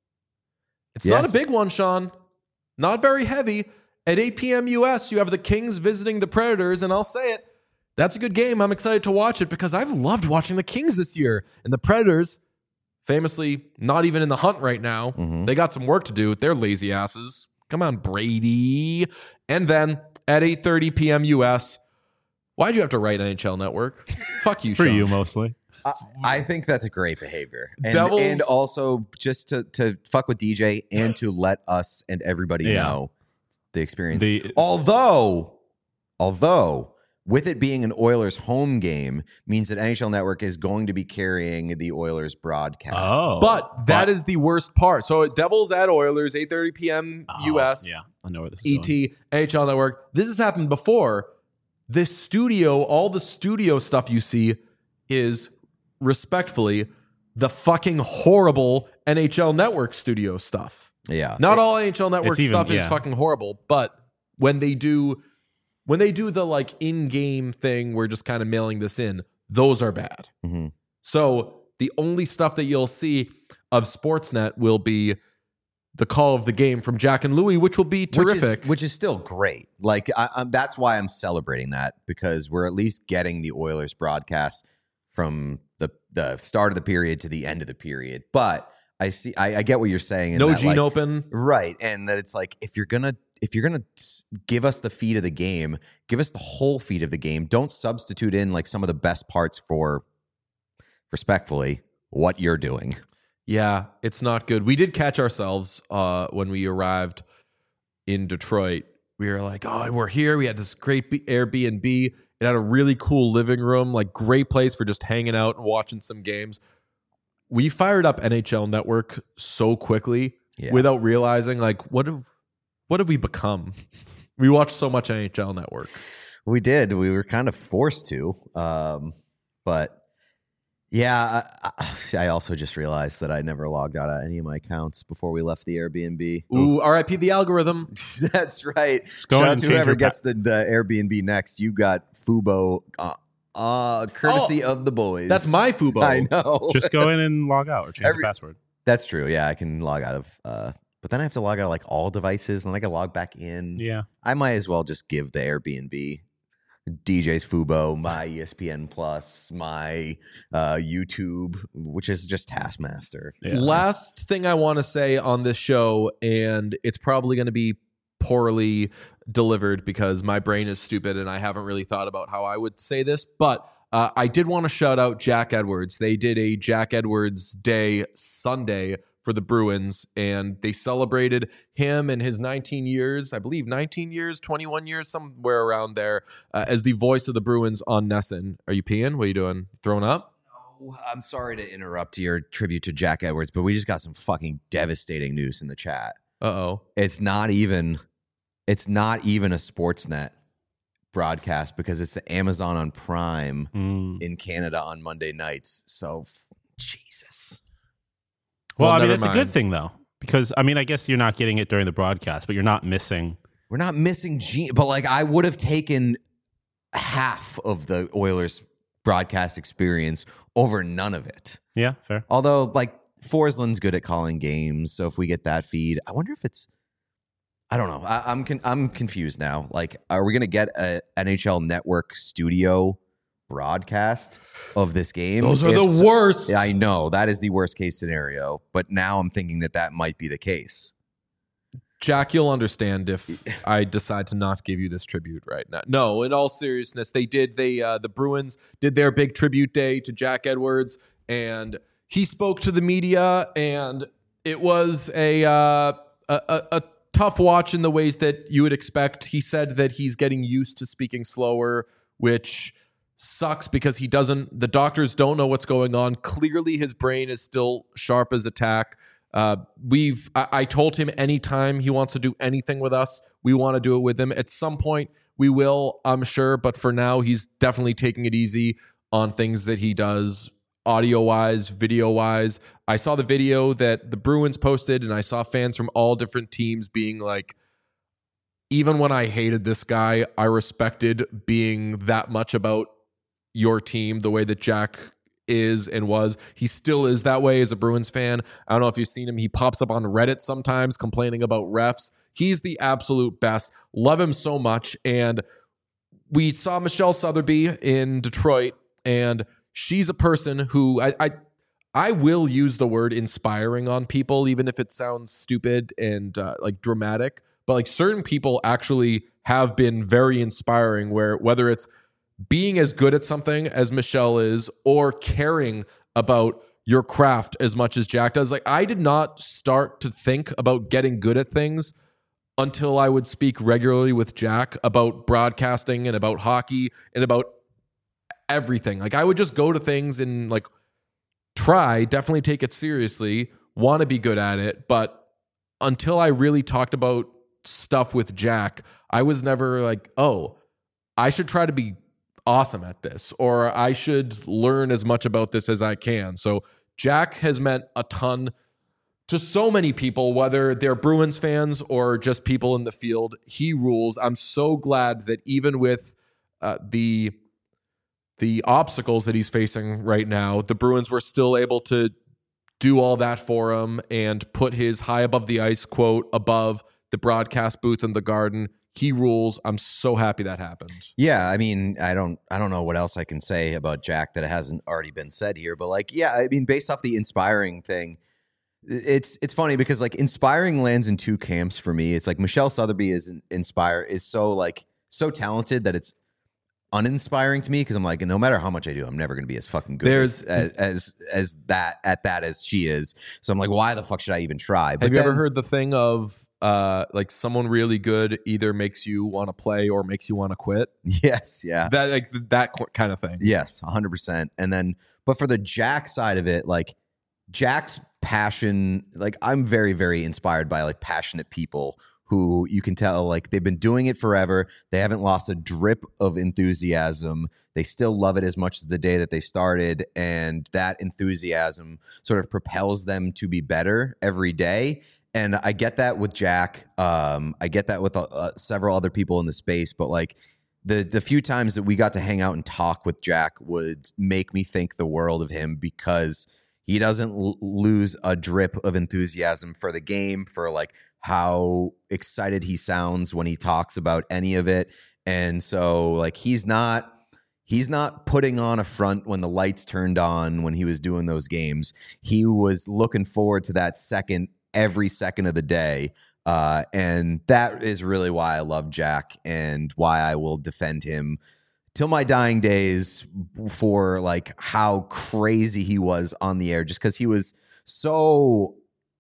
It's not a Yes. big one, Sean. Not very heavy. At eight p.m. U S, you have the Kings visiting the Predators, and I'll say it, that's a good game. I'm excited to watch it because I've loved watching the Kings this year. And the Predators, famously not even in the hunt right now, Mhm. they got some work to do with their lazy asses. Come on, Brady. And then at eight thirty p.m. U S, why'd you have to write N H L Network? Fuck you, For Sean. you mostly. I, I think that's a great behavior. And, Devils- and also just to, to fuck with D J and to let us and everybody Yeah. know the experience. The- although, although with it being an Oilers home game means that N H L Network is going to be carrying the Oilers broadcast. Oh. But that But- is the worst part. So Devils at Oilers, eight thirty p.m. U S, Oh, yeah, I know where this is E going. T, N H L Network. This has happened before. This studio, all the studio stuff you see is respectfully the fucking horrible N H L Network studio stuff. Yeah. Not all N H L Network it's even- stuff is yeah. fucking horrible, but when they do when they do the like in-game thing, we're just kind of mailing this in, those are bad. Mhm. So the only stuff that you'll see of Sportsnet will be the call of the game from Jack and Louie, which will be terrific. Which is, which is still great. Like I, I'm, that's why I'm celebrating that, because we're at least getting the Oilers broadcast from the the start of the period to the end of the period. But I see, I, I get what you're saying. in no that, Gene like, Open. right? And that it's like if you're gonna if you're gonna s- give us the feed of the game, give us the whole feed of the game. Don't substitute in like some of the best parts for, respectfully, what you're doing. Yeah, it's not good. We did catch ourselves uh, when we arrived in Detroit. We were like, oh, we're here. We had this great B- Airbnb. It had a really cool living room, like great place for just hanging out and watching some games. We fired up N H L Network so quickly Yeah. without realizing, like, what have what have we become? We watched so much N H L Network. We did. We were kind of forced to. Um, but yeah, I, I I also just realized that I never logged out of any of my accounts before we left the Airbnb. Ooh, R I P the algorithm. That's right. go Shout in out and to change whoever your gets the, the Airbnb next. You got Fubo, uh, uh, courtesy of the boys. That's my Fubo. I know. Just go in and log out or change Every- the password. That's true. Yeah, I can log out of. Uh, but then I have to log out of like all devices, and then I can log back in. Yeah. I might as well just give the Airbnb, D J's Fubo, my E S P N Plus, my uh, YouTube, which is just Taskmaster. Yeah. Last thing I want to say on this show, and it's probably going to be poorly delivered because my brain is stupid and I haven't really thought about how I would say this, but uh, I did want to shout out Jack Edwards. They did a Jack Edwards Day Sunday for the Bruins, and they celebrated him and his nineteen years, I believe nineteen years, twenty-one years, somewhere around there, uh, as the voice of the Bruins on Nesson. Are you peeing? What are you doing? Throwing up? I'm sorry to interrupt your tribute to Jack Edwards, but we just got some fucking devastating news in the chat. Uh-oh. It's not even, it's not even a Sportsnet broadcast because it's Amazon on Prime Mm. in Canada on Monday nights. So, f- Jesus. Well, Well, I mean, never it's a mind. good thing though, because I mean, I guess you're not getting it during the broadcast, but you're not missing. We're not missing Gene, but like I would have taken half of the Oilers broadcast experience over none of it. Yeah, fair. Although, like, Forsland's good at calling games, so if we get that feed, I wonder if it's. I don't know. I, I'm con- I'm confused now. Like, are we gonna get a N H L Network studio broadcast of this game? Those are If the so- worst. Yeah, I know that is the worst case scenario, but now I'm thinking that that might be the case. Jack, you'll understand if I decide to not give you this tribute right now. No, in all seriousness, they did. They uh, the Bruins did their big tribute day to Jack Edwards, and he spoke to the media, and it was a uh, a, a, a tough watch in the ways that you would expect. He said that he's getting used to speaking slower, which sucks because he doesn't. The doctors don't know what's going on. Clearly, his brain is still sharp as a tack. Uh, we've, I, I told him anytime he wants to do anything with us, we want to do it with him. At some point, we will, I'm sure. But for now, he's definitely taking it easy on things that he does audio wise, video wise. I saw the video that the Bruins posted, and I saw fans from all different teams being like, even when I hated this guy, I respected being that much about your team the way that Jack is and was. He still is that way as a Bruins fan. I don't know if you've seen him. He pops up on Reddit sometimes complaining about refs. He's the absolute best. Love him so much. And we saw Michelle Sotheby in Detroit, and she's a person who I, I I will use the word inspiring on people, even if it sounds stupid and uh, like dramatic. But like certain people actually have been very inspiring, where whether it's being as good at something as Michelle is or caring about your craft as much as Jack does. Like, I did not start to think about getting good at things until I would speak regularly with Jack about broadcasting and about hockey and about everything. Like, I would just go to things and like try, definitely take it seriously, want to be good at it. But until I really talked about stuff with Jack, I was never like, oh, I should try to be awesome at this, or I should learn as much about this as I can. So Jack has meant a ton to so many people, whether they're Bruins fans or just people in the field. He rules. I'm so glad that even with uh, the the obstacles that he's facing right now, the Bruins were still able to do all that for him and put his high above the ice quote above the broadcast booth in the Garden. He rules. I'm so happy that happened. Yeah, I mean, I don't I don't know what else I can say about Jack that hasn't already been said here, but like, yeah, I mean, based off the inspiring thing, it's it's funny because like inspiring lands in two camps for me. It's like Michelle Sotheby is inspire is so like so talented that it's uninspiring to me because I'm like, no matter how much I do, I'm never going to be as fucking good There's, as, as as as that at that as she is. So I'm like, why the fuck should I even try? But have you then, ever heard the thing of uh, like someone really good either makes you want to play or makes you want to quit? Yes, yeah, That like that kind of thing. yes, one hundred percent. And then, but for the Jack side of it, like Jack's passion, like I'm very very inspired by like passionate people who you can tell like they've been doing it forever. They haven't lost a drip of enthusiasm. They still love it as much as the day that they started. And that enthusiasm sort of propels them to be better every day. And I get that with Jack. Um, I get that with uh, several other people in the space. But like the, the few times that we got to hang out and talk with Jack would make me think the world of him because he doesn't l- lose a drip of enthusiasm for the game, for like how excited he sounds when he talks about any of it. And so like he's not he's not putting on a front when the lights turned on when he was doing those games. He was looking forward to that second every second of the day. Uh, and that is really why I love Jack and why I will defend him till my dying days for like how crazy he was on the air, just because he was so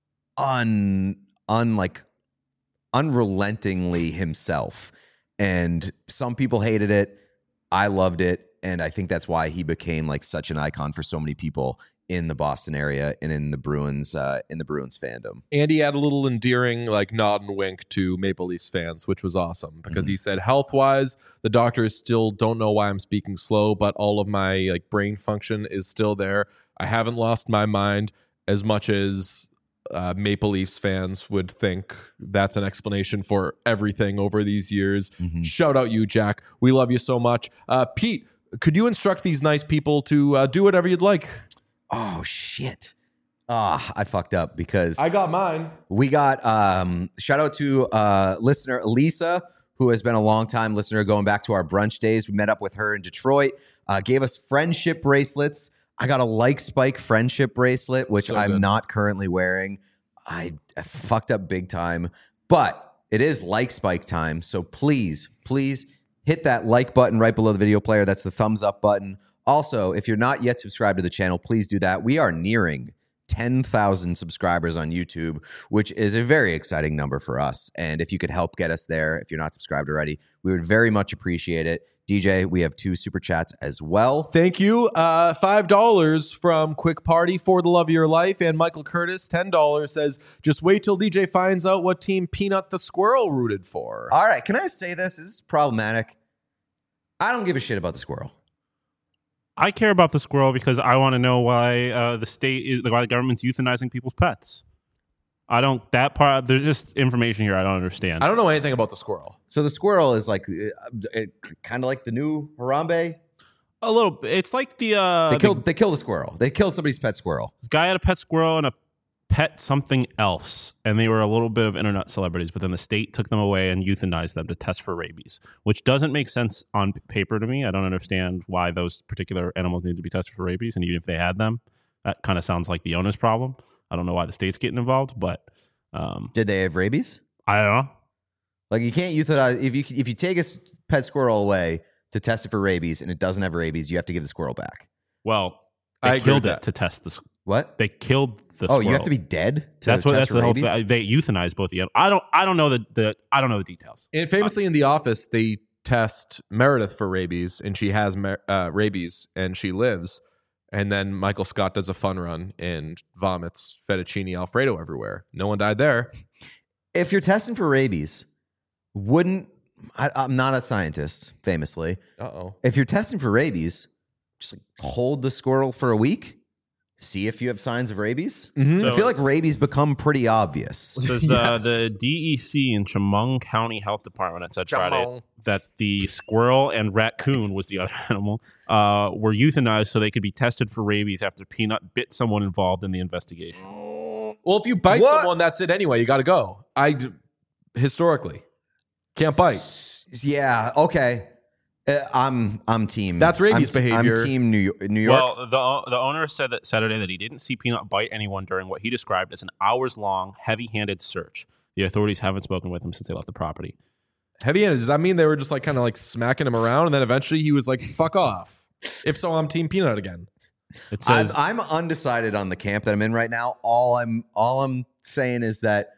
un unlike unrelentingly himself. And some people hated it. I loved it. And I think that's why he became like such an icon for so many people in the Boston area and in the Bruins, uh, in the Bruins fandom. Andy had a little endearing like nod and wink to Maple Leafs fans, which was awesome because mm-hmm. he said, health wise, the doctors still don't know why I'm speaking slow, but all of my like brain function is still there. I haven't lost my mind as much as uh, Maple Leafs fans would think. That's an explanation for everything over these years. Mm-hmm. Shout out you, Jack. We love you so much. Uh, Pete, could you instruct these nice people to uh, do whatever you'd like? Oh, shit. Ah, I fucked up because I got mine. We got um shout out to uh listener Elisa, who has been a long time listener going back to our brunch days. We met up with her in Detroit, uh, gave us friendship bracelets. I got a Like Spike friendship bracelet, which so I'm not currently wearing. I, I fucked up big time. But it is like spike time. So please, please hit that like button right below the video player. That's the thumbs up button. Also, if you're not yet subscribed to the channel, please do that. We are nearing ten thousand subscribers on YouTube, which is a very exciting number for us. And if you could help get us there, if you're not subscribed already, we would very much appreciate it. D J, we have two super chats as well. Thank you. Uh, five dollars from Quick Party for the love of your life. And Michael Curtis, ten dollars, says, just wait till D J finds out what team Peanut the Squirrel rooted for. All right, can I say this? This is problematic. I don't give a shit about the squirrel. I care about the squirrel because I want to know why uh, the state is, why the government's euthanizing people's pets. I don't, that part, there's just information here I don't understand. I don't know anything about the squirrel. So the squirrel is like uh, kind of like the new Harambe. A little bit. It's like the... Uh, They killed. the, They killed a squirrel. They killed somebody's pet squirrel. this guy had a pet squirrel and a pet something else, and they were a little bit of internet celebrities, but then the state took them away and euthanized them to test for rabies, which doesn't make sense on paper to me. I don't understand why those particular animals need to be tested for rabies, and even if they had them, that kind of sounds like the owner's problem. I don't know why the state's getting involved, but um, Did they have rabies? I don't know. Like you can't euthanize if you if you take a s- pet squirrel away to test it for rabies and it doesn't have rabies, you have to give the squirrel back. Well, they I agree killed with it that. to test the. What? They killed the. Oh, squirrel. you have to be dead to That's what. test That's for the whole rabies? thing. They euthanized both the. I don't. I don't know the. the I don't know the details. And famously in The Office, they test Meredith for rabies, and she has mer- uh, rabies, and she lives. And then Michael Scott does a fun run and vomits fettuccine Alfredo everywhere. No one died there. If you're testing for rabies, wouldn't I, I'm not a scientist, famously. Uh-oh. If you're testing for rabies, just like hold the squirrel for a week, see if you have signs of rabies. Mhm. So- I feel like rabies become pretty obvious. Says Yes. the, the D E C in Chemung County Health Department at said Friday Chemung. that the squirrel and raccoon was the other animal uh, were euthanized so they could be tested for rabies after Peanut bit someone involved in the investigation. Well, if you bite What? someone, that's it anyway. You got to go. I d- historically can't bite. Yeah. Okay. Uh, I'm I'm team. That's rabies I'm, behavior. I'm team New York. New York. Well, the the owner said that Saturday that he didn't see Peanut bite anyone during what he described as an hours-long, heavy-handed search. The authorities haven't spoken with him since they left the property. Heavy-handed. Does that mean they were just like kind of like smacking him around, and then eventually he was like, "Fuck off"? If so, I'm Team Peanut again. It I'm, says I'm undecided on the camp that I'm in right now. All I'm all I'm saying is that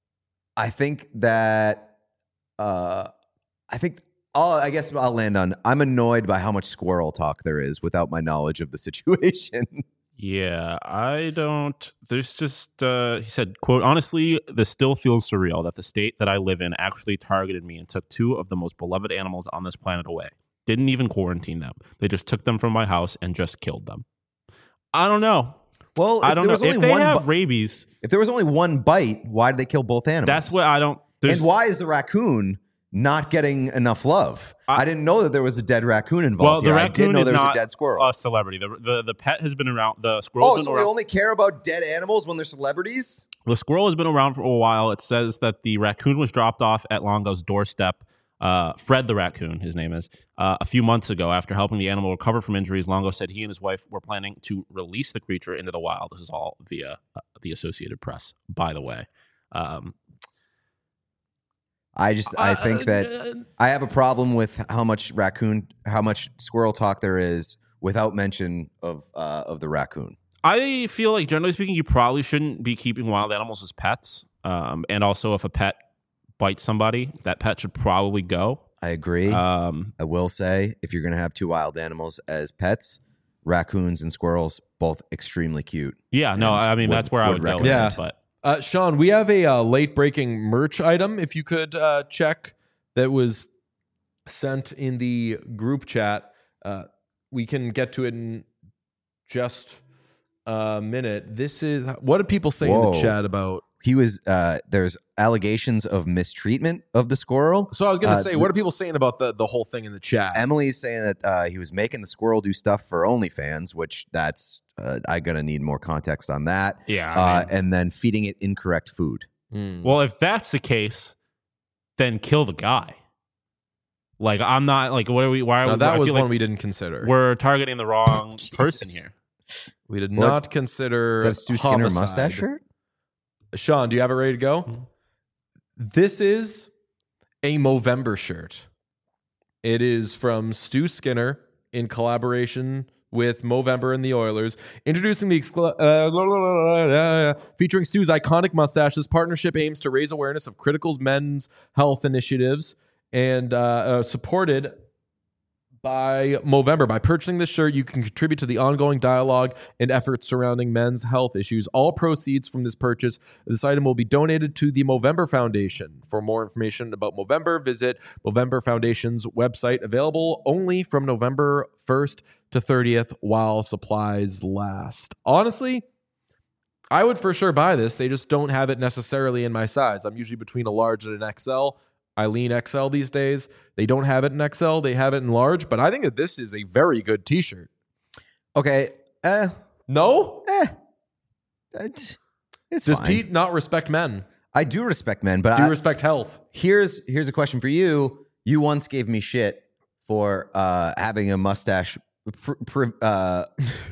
I think that uh, I think all I guess I'll land on. I'm annoyed by how much squirrel talk there is without my knowledge of the situation. Yeah, I don't. There's just, uh, he said, quote, honestly, this still feels surreal that the state that I live in actually targeted me and took two of the most beloved animals on this planet away. Didn't even quarantine them. They just took them from my house and just killed them. I don't know. Well, if I don't there know. was only If they one have bu- rabies, if there was only one bite, why did they kill both animals? that's what I don't. There's, And why is the raccoon not getting enough love? I- I, didn't know that there was a dead raccoon Well, involved the here. I did raccoon know is there was a not dead squirrel. a celebrity. The, the the pet has been around. The squirrel. Oh, been so we around. only care about dead animals when they're celebrities? The squirrel has been around for a while. It says that the raccoon was dropped off at Longo's doorstep. Uh, Fred the raccoon, his name is, uh, a few months ago. After helping the animal recover from injuries, Longo said he and his wife were planning to release the creature into the wild. This is all via uh, the Associated Press, by the way. Um, I just I think that I have a problem with how much raccoon, how much squirrel talk there is without mention of uh, of the raccoon. I feel like, generally speaking, you probably shouldn't be keeping wild animals as pets. Um, and also, if a pet bites somebody, that pet should probably go. I agree. Um, I will say, if you're going to have two wild animals as pets, raccoons and squirrels, both extremely cute. yeah, no, And I mean, would- that's where I would would go with recommend. it. But Uh, Sean, we have a uh, late breaking merch item. If you could uh, check that was sent in the group chat, uh, we can get to it in just a minute. This is what do people say in Whoa. the chat about? He was uh, there's allegations of mistreatment of the squirrel. So I was going to Uh, say, what are people saying about the the whole thing in the chat? Emily's saying that uh, he was making the squirrel do stuff for OnlyFans, which that's uh, I'm gonna need more context on that. yeah, I Uh, mean, and then feeding it incorrect food. Hmm. well, if that's the case, then kill the guy. Like, I'm not like, what are we? Why are Now, we? that I was feel one like we didn't consider. we're targeting the wrong Jesus. person here. We did What? not consider Is that Stu Skinner homicide. mustache shirt? Sean, do you have it ready to go? This is a Movember shirt. It is from Stu Skinner in collaboration with Movember and the Oilers, introducing the exclu- uh, featuring Stu's iconic mustache. This partnership aims to raise awareness of critical men's health initiatives and uh, uh, supported by Movember. By purchasing this shirt, you can contribute to the ongoing dialogue and efforts surrounding men's health issues. All proceeds from this purchase, this item will be donated to the Movember Foundation. For more information about Movember, visit Movember Foundation's website, available only from November first to thirtieth while supplies last. Honestly, I would for sure buy this. They just don't have it necessarily in my size. I'm usually between a large and an X L. I lean X L these days. They don't have it in X L. They have it in large, but I think that this is a very good t-shirt. Okay. Eh. No? Eh. It's, it's Does fine. Pete not respect men? I do respect men, but Do you I, respect health? here's here's a question for you. You once gave me shit for uh, having a mustache pre pre uh,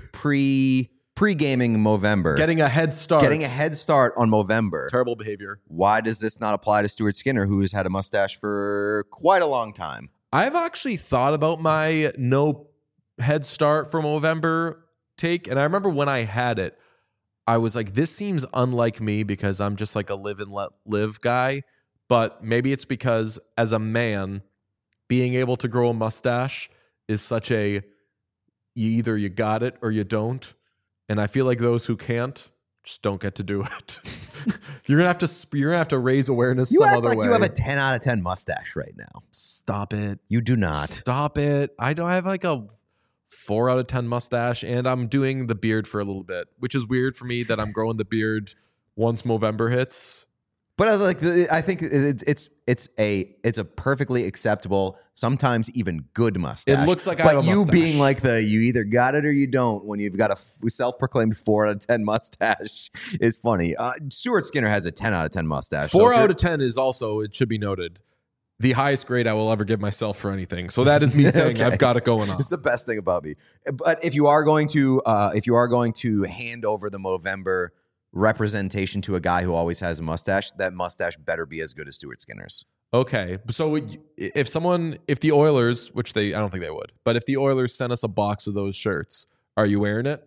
pre pre-gaming Movember. Getting a head start. Getting a head start on Movember. Terrible behavior. Why does this not apply to Stuart Skinner, who has had a mustache for quite a long time? I've actually thought about my no head start for Movember take, and I remember when I had it, I was like, this seems unlike me because I'm just like a live and let live guy. But maybe it's because as a man, being able to grow a mustache is such a, you either you got it or you don't. And I feel like those who can't just don't get to do it. You're gonna have to you're gonna have to raise awareness You some act other like way. you have a ten out of ten mustache right now. Stop it. You do not. Stop it. I don't have like a four out of ten mustache, and I'm doing the beard for a little bit, which is weird for me that I'm growing the beard once Movember hits. But I like the, I think it, it's it's a it's a perfectly acceptable, sometimes even good mustache. It looks like I but have a you mustache. being like the you either got it or you don't when you've got a f- self-proclaimed four out of ten mustache is funny. Uh, Stuart Skinner has a ten out of ten mustache. Four So if out you're- of ten is also, it should be noted, the highest grade I will ever give myself for anything. So that is me saying Okay. I've got it going on. It's the best thing about me. But if you are going to uh, if you are going to hand over the Movember representation to a guy who always has a mustache, that mustache better be as good as Stuart Skinner's. Okay, so if someone, if the Oilers, which they, I don't think they would, but if the Oilers sent us a box of those shirts, are you wearing it?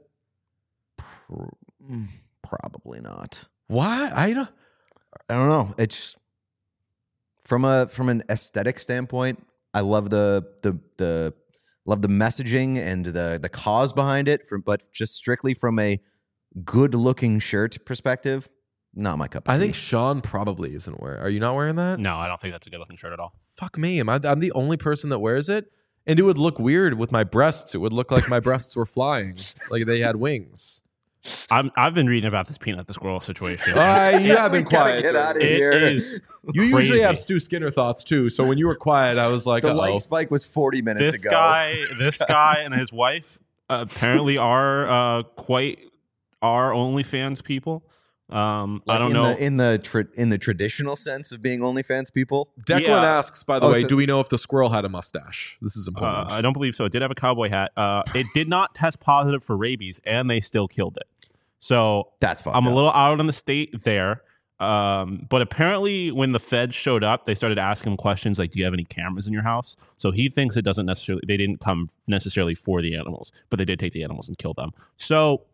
Probably not. Why? I don't. I don't know. It's from a from an aesthetic standpoint. I love the the the love the messaging and the the cause behind it. From but just strictly from a good looking shirt perspective, not my cup of I tea. think Sean probably isn't wearing. Are you not wearing that? No, I don't think that's a good looking shirt at all. Fuck me. Am I? I'm the only person that wears it, and it would look weird with my breasts. It would look like my breasts were flying, like they had wings. I'm, I've been reading about this Peanut the Squirrel situation. All right, you have We been gotta quiet. get out of It here. is You usually crazy. have Stu Skinner thoughts too. So when you were quiet, I was like, the uh-oh. like spike was forty minutes this ago. guy, this guy, and his wife uh, apparently are uh, quite are OnlyFans people. Um, I Like, don't in know. the, in the tra- in the traditional sense of being OnlyFans people. Declan Yeah. asks, by the Oh, way, so- do we know if the squirrel had a mustache? This is Uh, important. I don't believe so. It did have a cowboy hat. Uh, it did not test positive for rabies, and they still killed it. So That's fucked I'm a up. little out on the state there. Um, but apparently, when the feds showed up, they started asking him questions like, "Do you have any cameras in your house?" So he thinks it doesn't necessarily. They didn't come necessarily for the animals, but they did take the animals and kill them. So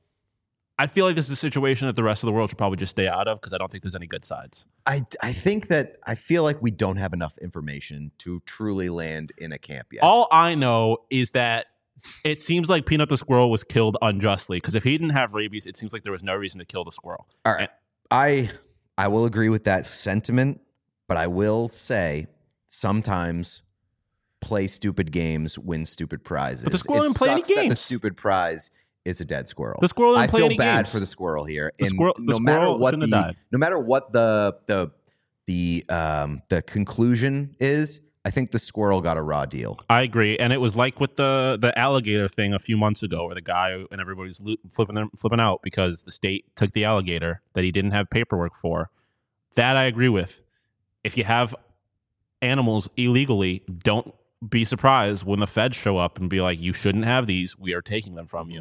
I feel like this is a situation that the rest of the world should probably just stay out of because I don't think there's any good sides. I I think that I feel like we don't have enough information to truly land in a camp yet. All I know is that it seems like Peanut the squirrel was killed unjustly because if he didn't have rabies, it seems like there was no reason to kill the squirrel. All right. I I will agree with that sentiment, but I will say sometimes play stupid games, win stupid prizes. But the squirrel It didn't play any sucks that the games. stupid prize is a dead squirrel. The squirrel didn't I play feel any bad games. for the squirrel here. The and squirrel- the no matter squirrel what shouldn't the have died. no matter what the the the um the conclusion is, I think the squirrel got a raw deal. I agree, and it was like with the the alligator thing a few months ago, where the guy and everybody's lo- flipping them, flipping out because the state took the alligator that he didn't have paperwork for. That I agree with. If you have animals illegally, don't be surprised when the feds show up and be like, "You shouldn't have these. We are taking them from you."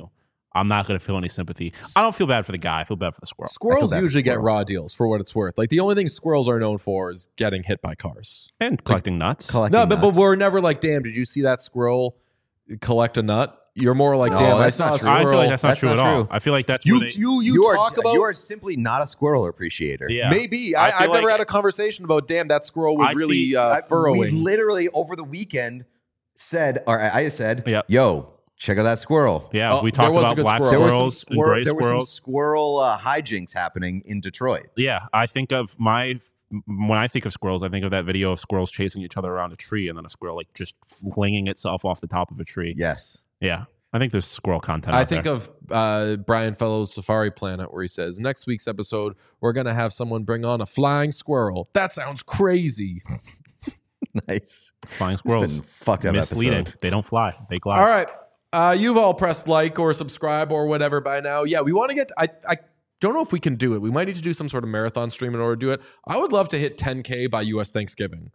I'm not going to feel any sympathy. I don't feel bad for the guy. I feel bad for the squirrel. Squirrels bad for usually get squirrel. raw deals for what it's worth. Like the only thing squirrels are known for is getting hit by cars. And collecting nuts. Collecting No, but, but nuts. we're never like, damn, did you see that squirrel collect a nut? You're more like, No, damn, I that's saw not a true. I squirrel. feel like that's not That's true not at all. true. I feel like that's you, where they, you, you, you are talk about you are simply not a squirrel appreciator. yeah. maybe. I I, feel I've never like- had a conversation about, damn, that squirrel was I really see- uh, I- furrowing. We literally over the weekend said, or I I said, Yep. yo, check out that squirrel. Yeah, Oh, we there talked was a about good black squirrel. There was some squirrels and squirrel. gray There were some squirrels. squirrel uh, hijinks happening in Detroit. Yeah, I think of my when I think of squirrels, I think of that video of squirrels chasing each other around a tree, and then a squirrel like just flinging itself off the top of a tree. Yes. Yeah, I think there's squirrel content. I out think there. of uh, Brian Fellow's Safari Planet, where he says, next week's episode, we're going to have someone bring on a flying squirrel. That sounds crazy. Nice. flying It's squirrels been a fucked up misleading. episode. They don't fly; they glide. All right. Uh, you've all pressed like or subscribe or whatever by now. Yeah, we want to get, I, I don't know if we can do it. We might need to do some sort of marathon stream in order to do it. I would love to hit ten K by U S Thanksgiving.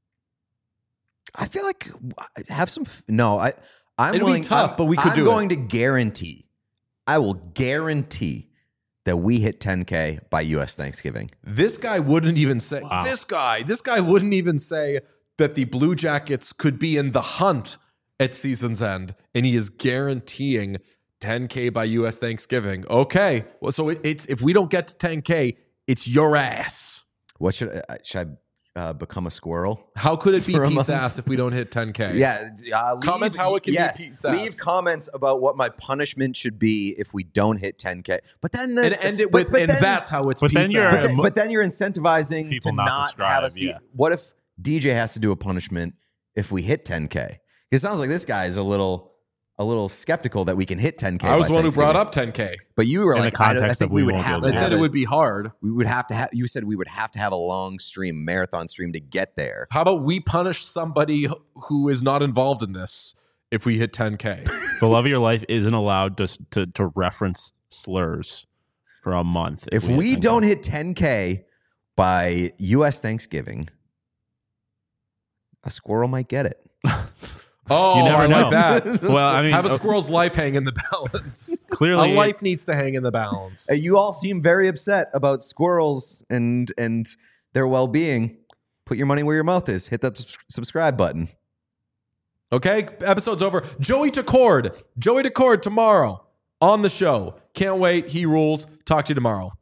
I feel like have some. f- No, I. I'm It'd be willing, tough, I'm- but we could I'm do it. going to guarantee. I will guarantee that we hit ten K by U S Thanksgiving. This guy wouldn't even say, Wow. this guy, this guy wouldn't even say that the Blue Jackets could be in the hunt at season's end. And he is guaranteeing ten K by U S Thanksgiving. Okay. Well, so it, it's, if we don't get to ten K, it's your ass. What should I? Should I uh, become a squirrel? How could it be For a Pete's month. ass if we don't hit ten K? Yeah. Uh, leave, Comments how it can be yes, Pete's ass. Leave comments about what my punishment should be if we don't hit ten K. But then, the, And end it but- with, but and then- that's how it's but then Pete's you're- ass. But then, but then you're incentivizing People to not not, to have us strive, be. yeah. What if D J has to do a punishment if we hit ten K? It sounds like this guy is a little, a little skeptical that we can hit ten K. I was by the one who brought Thanksgiving. up ten K. But you were In the like, I, don't- I context think of we we would won't have be to I able to have said it a- would be hard. We would have to have. You said we would have to have a long stream, marathon stream to get there. How about we punish somebody who is not involved in this if we hit ten K? The love of your life isn't allowed to to, to reference slurs for a month. If hit we ten K. don't hit ten K by U S Thanksgiving, a squirrel might get it. Oh, You never I know. like that. well, I mean, Have a uh, squirrel's life hang in the balance. clearly, a life needs to hang in the balance. Uh, You all seem very upset about squirrels and and their well-being. Put your money where your mouth is. Hit that s- subscribe button. Okay, episode's over. Joey Decord. Joey Decord tomorrow on the show. Can't wait. He rules. Talk to you tomorrow.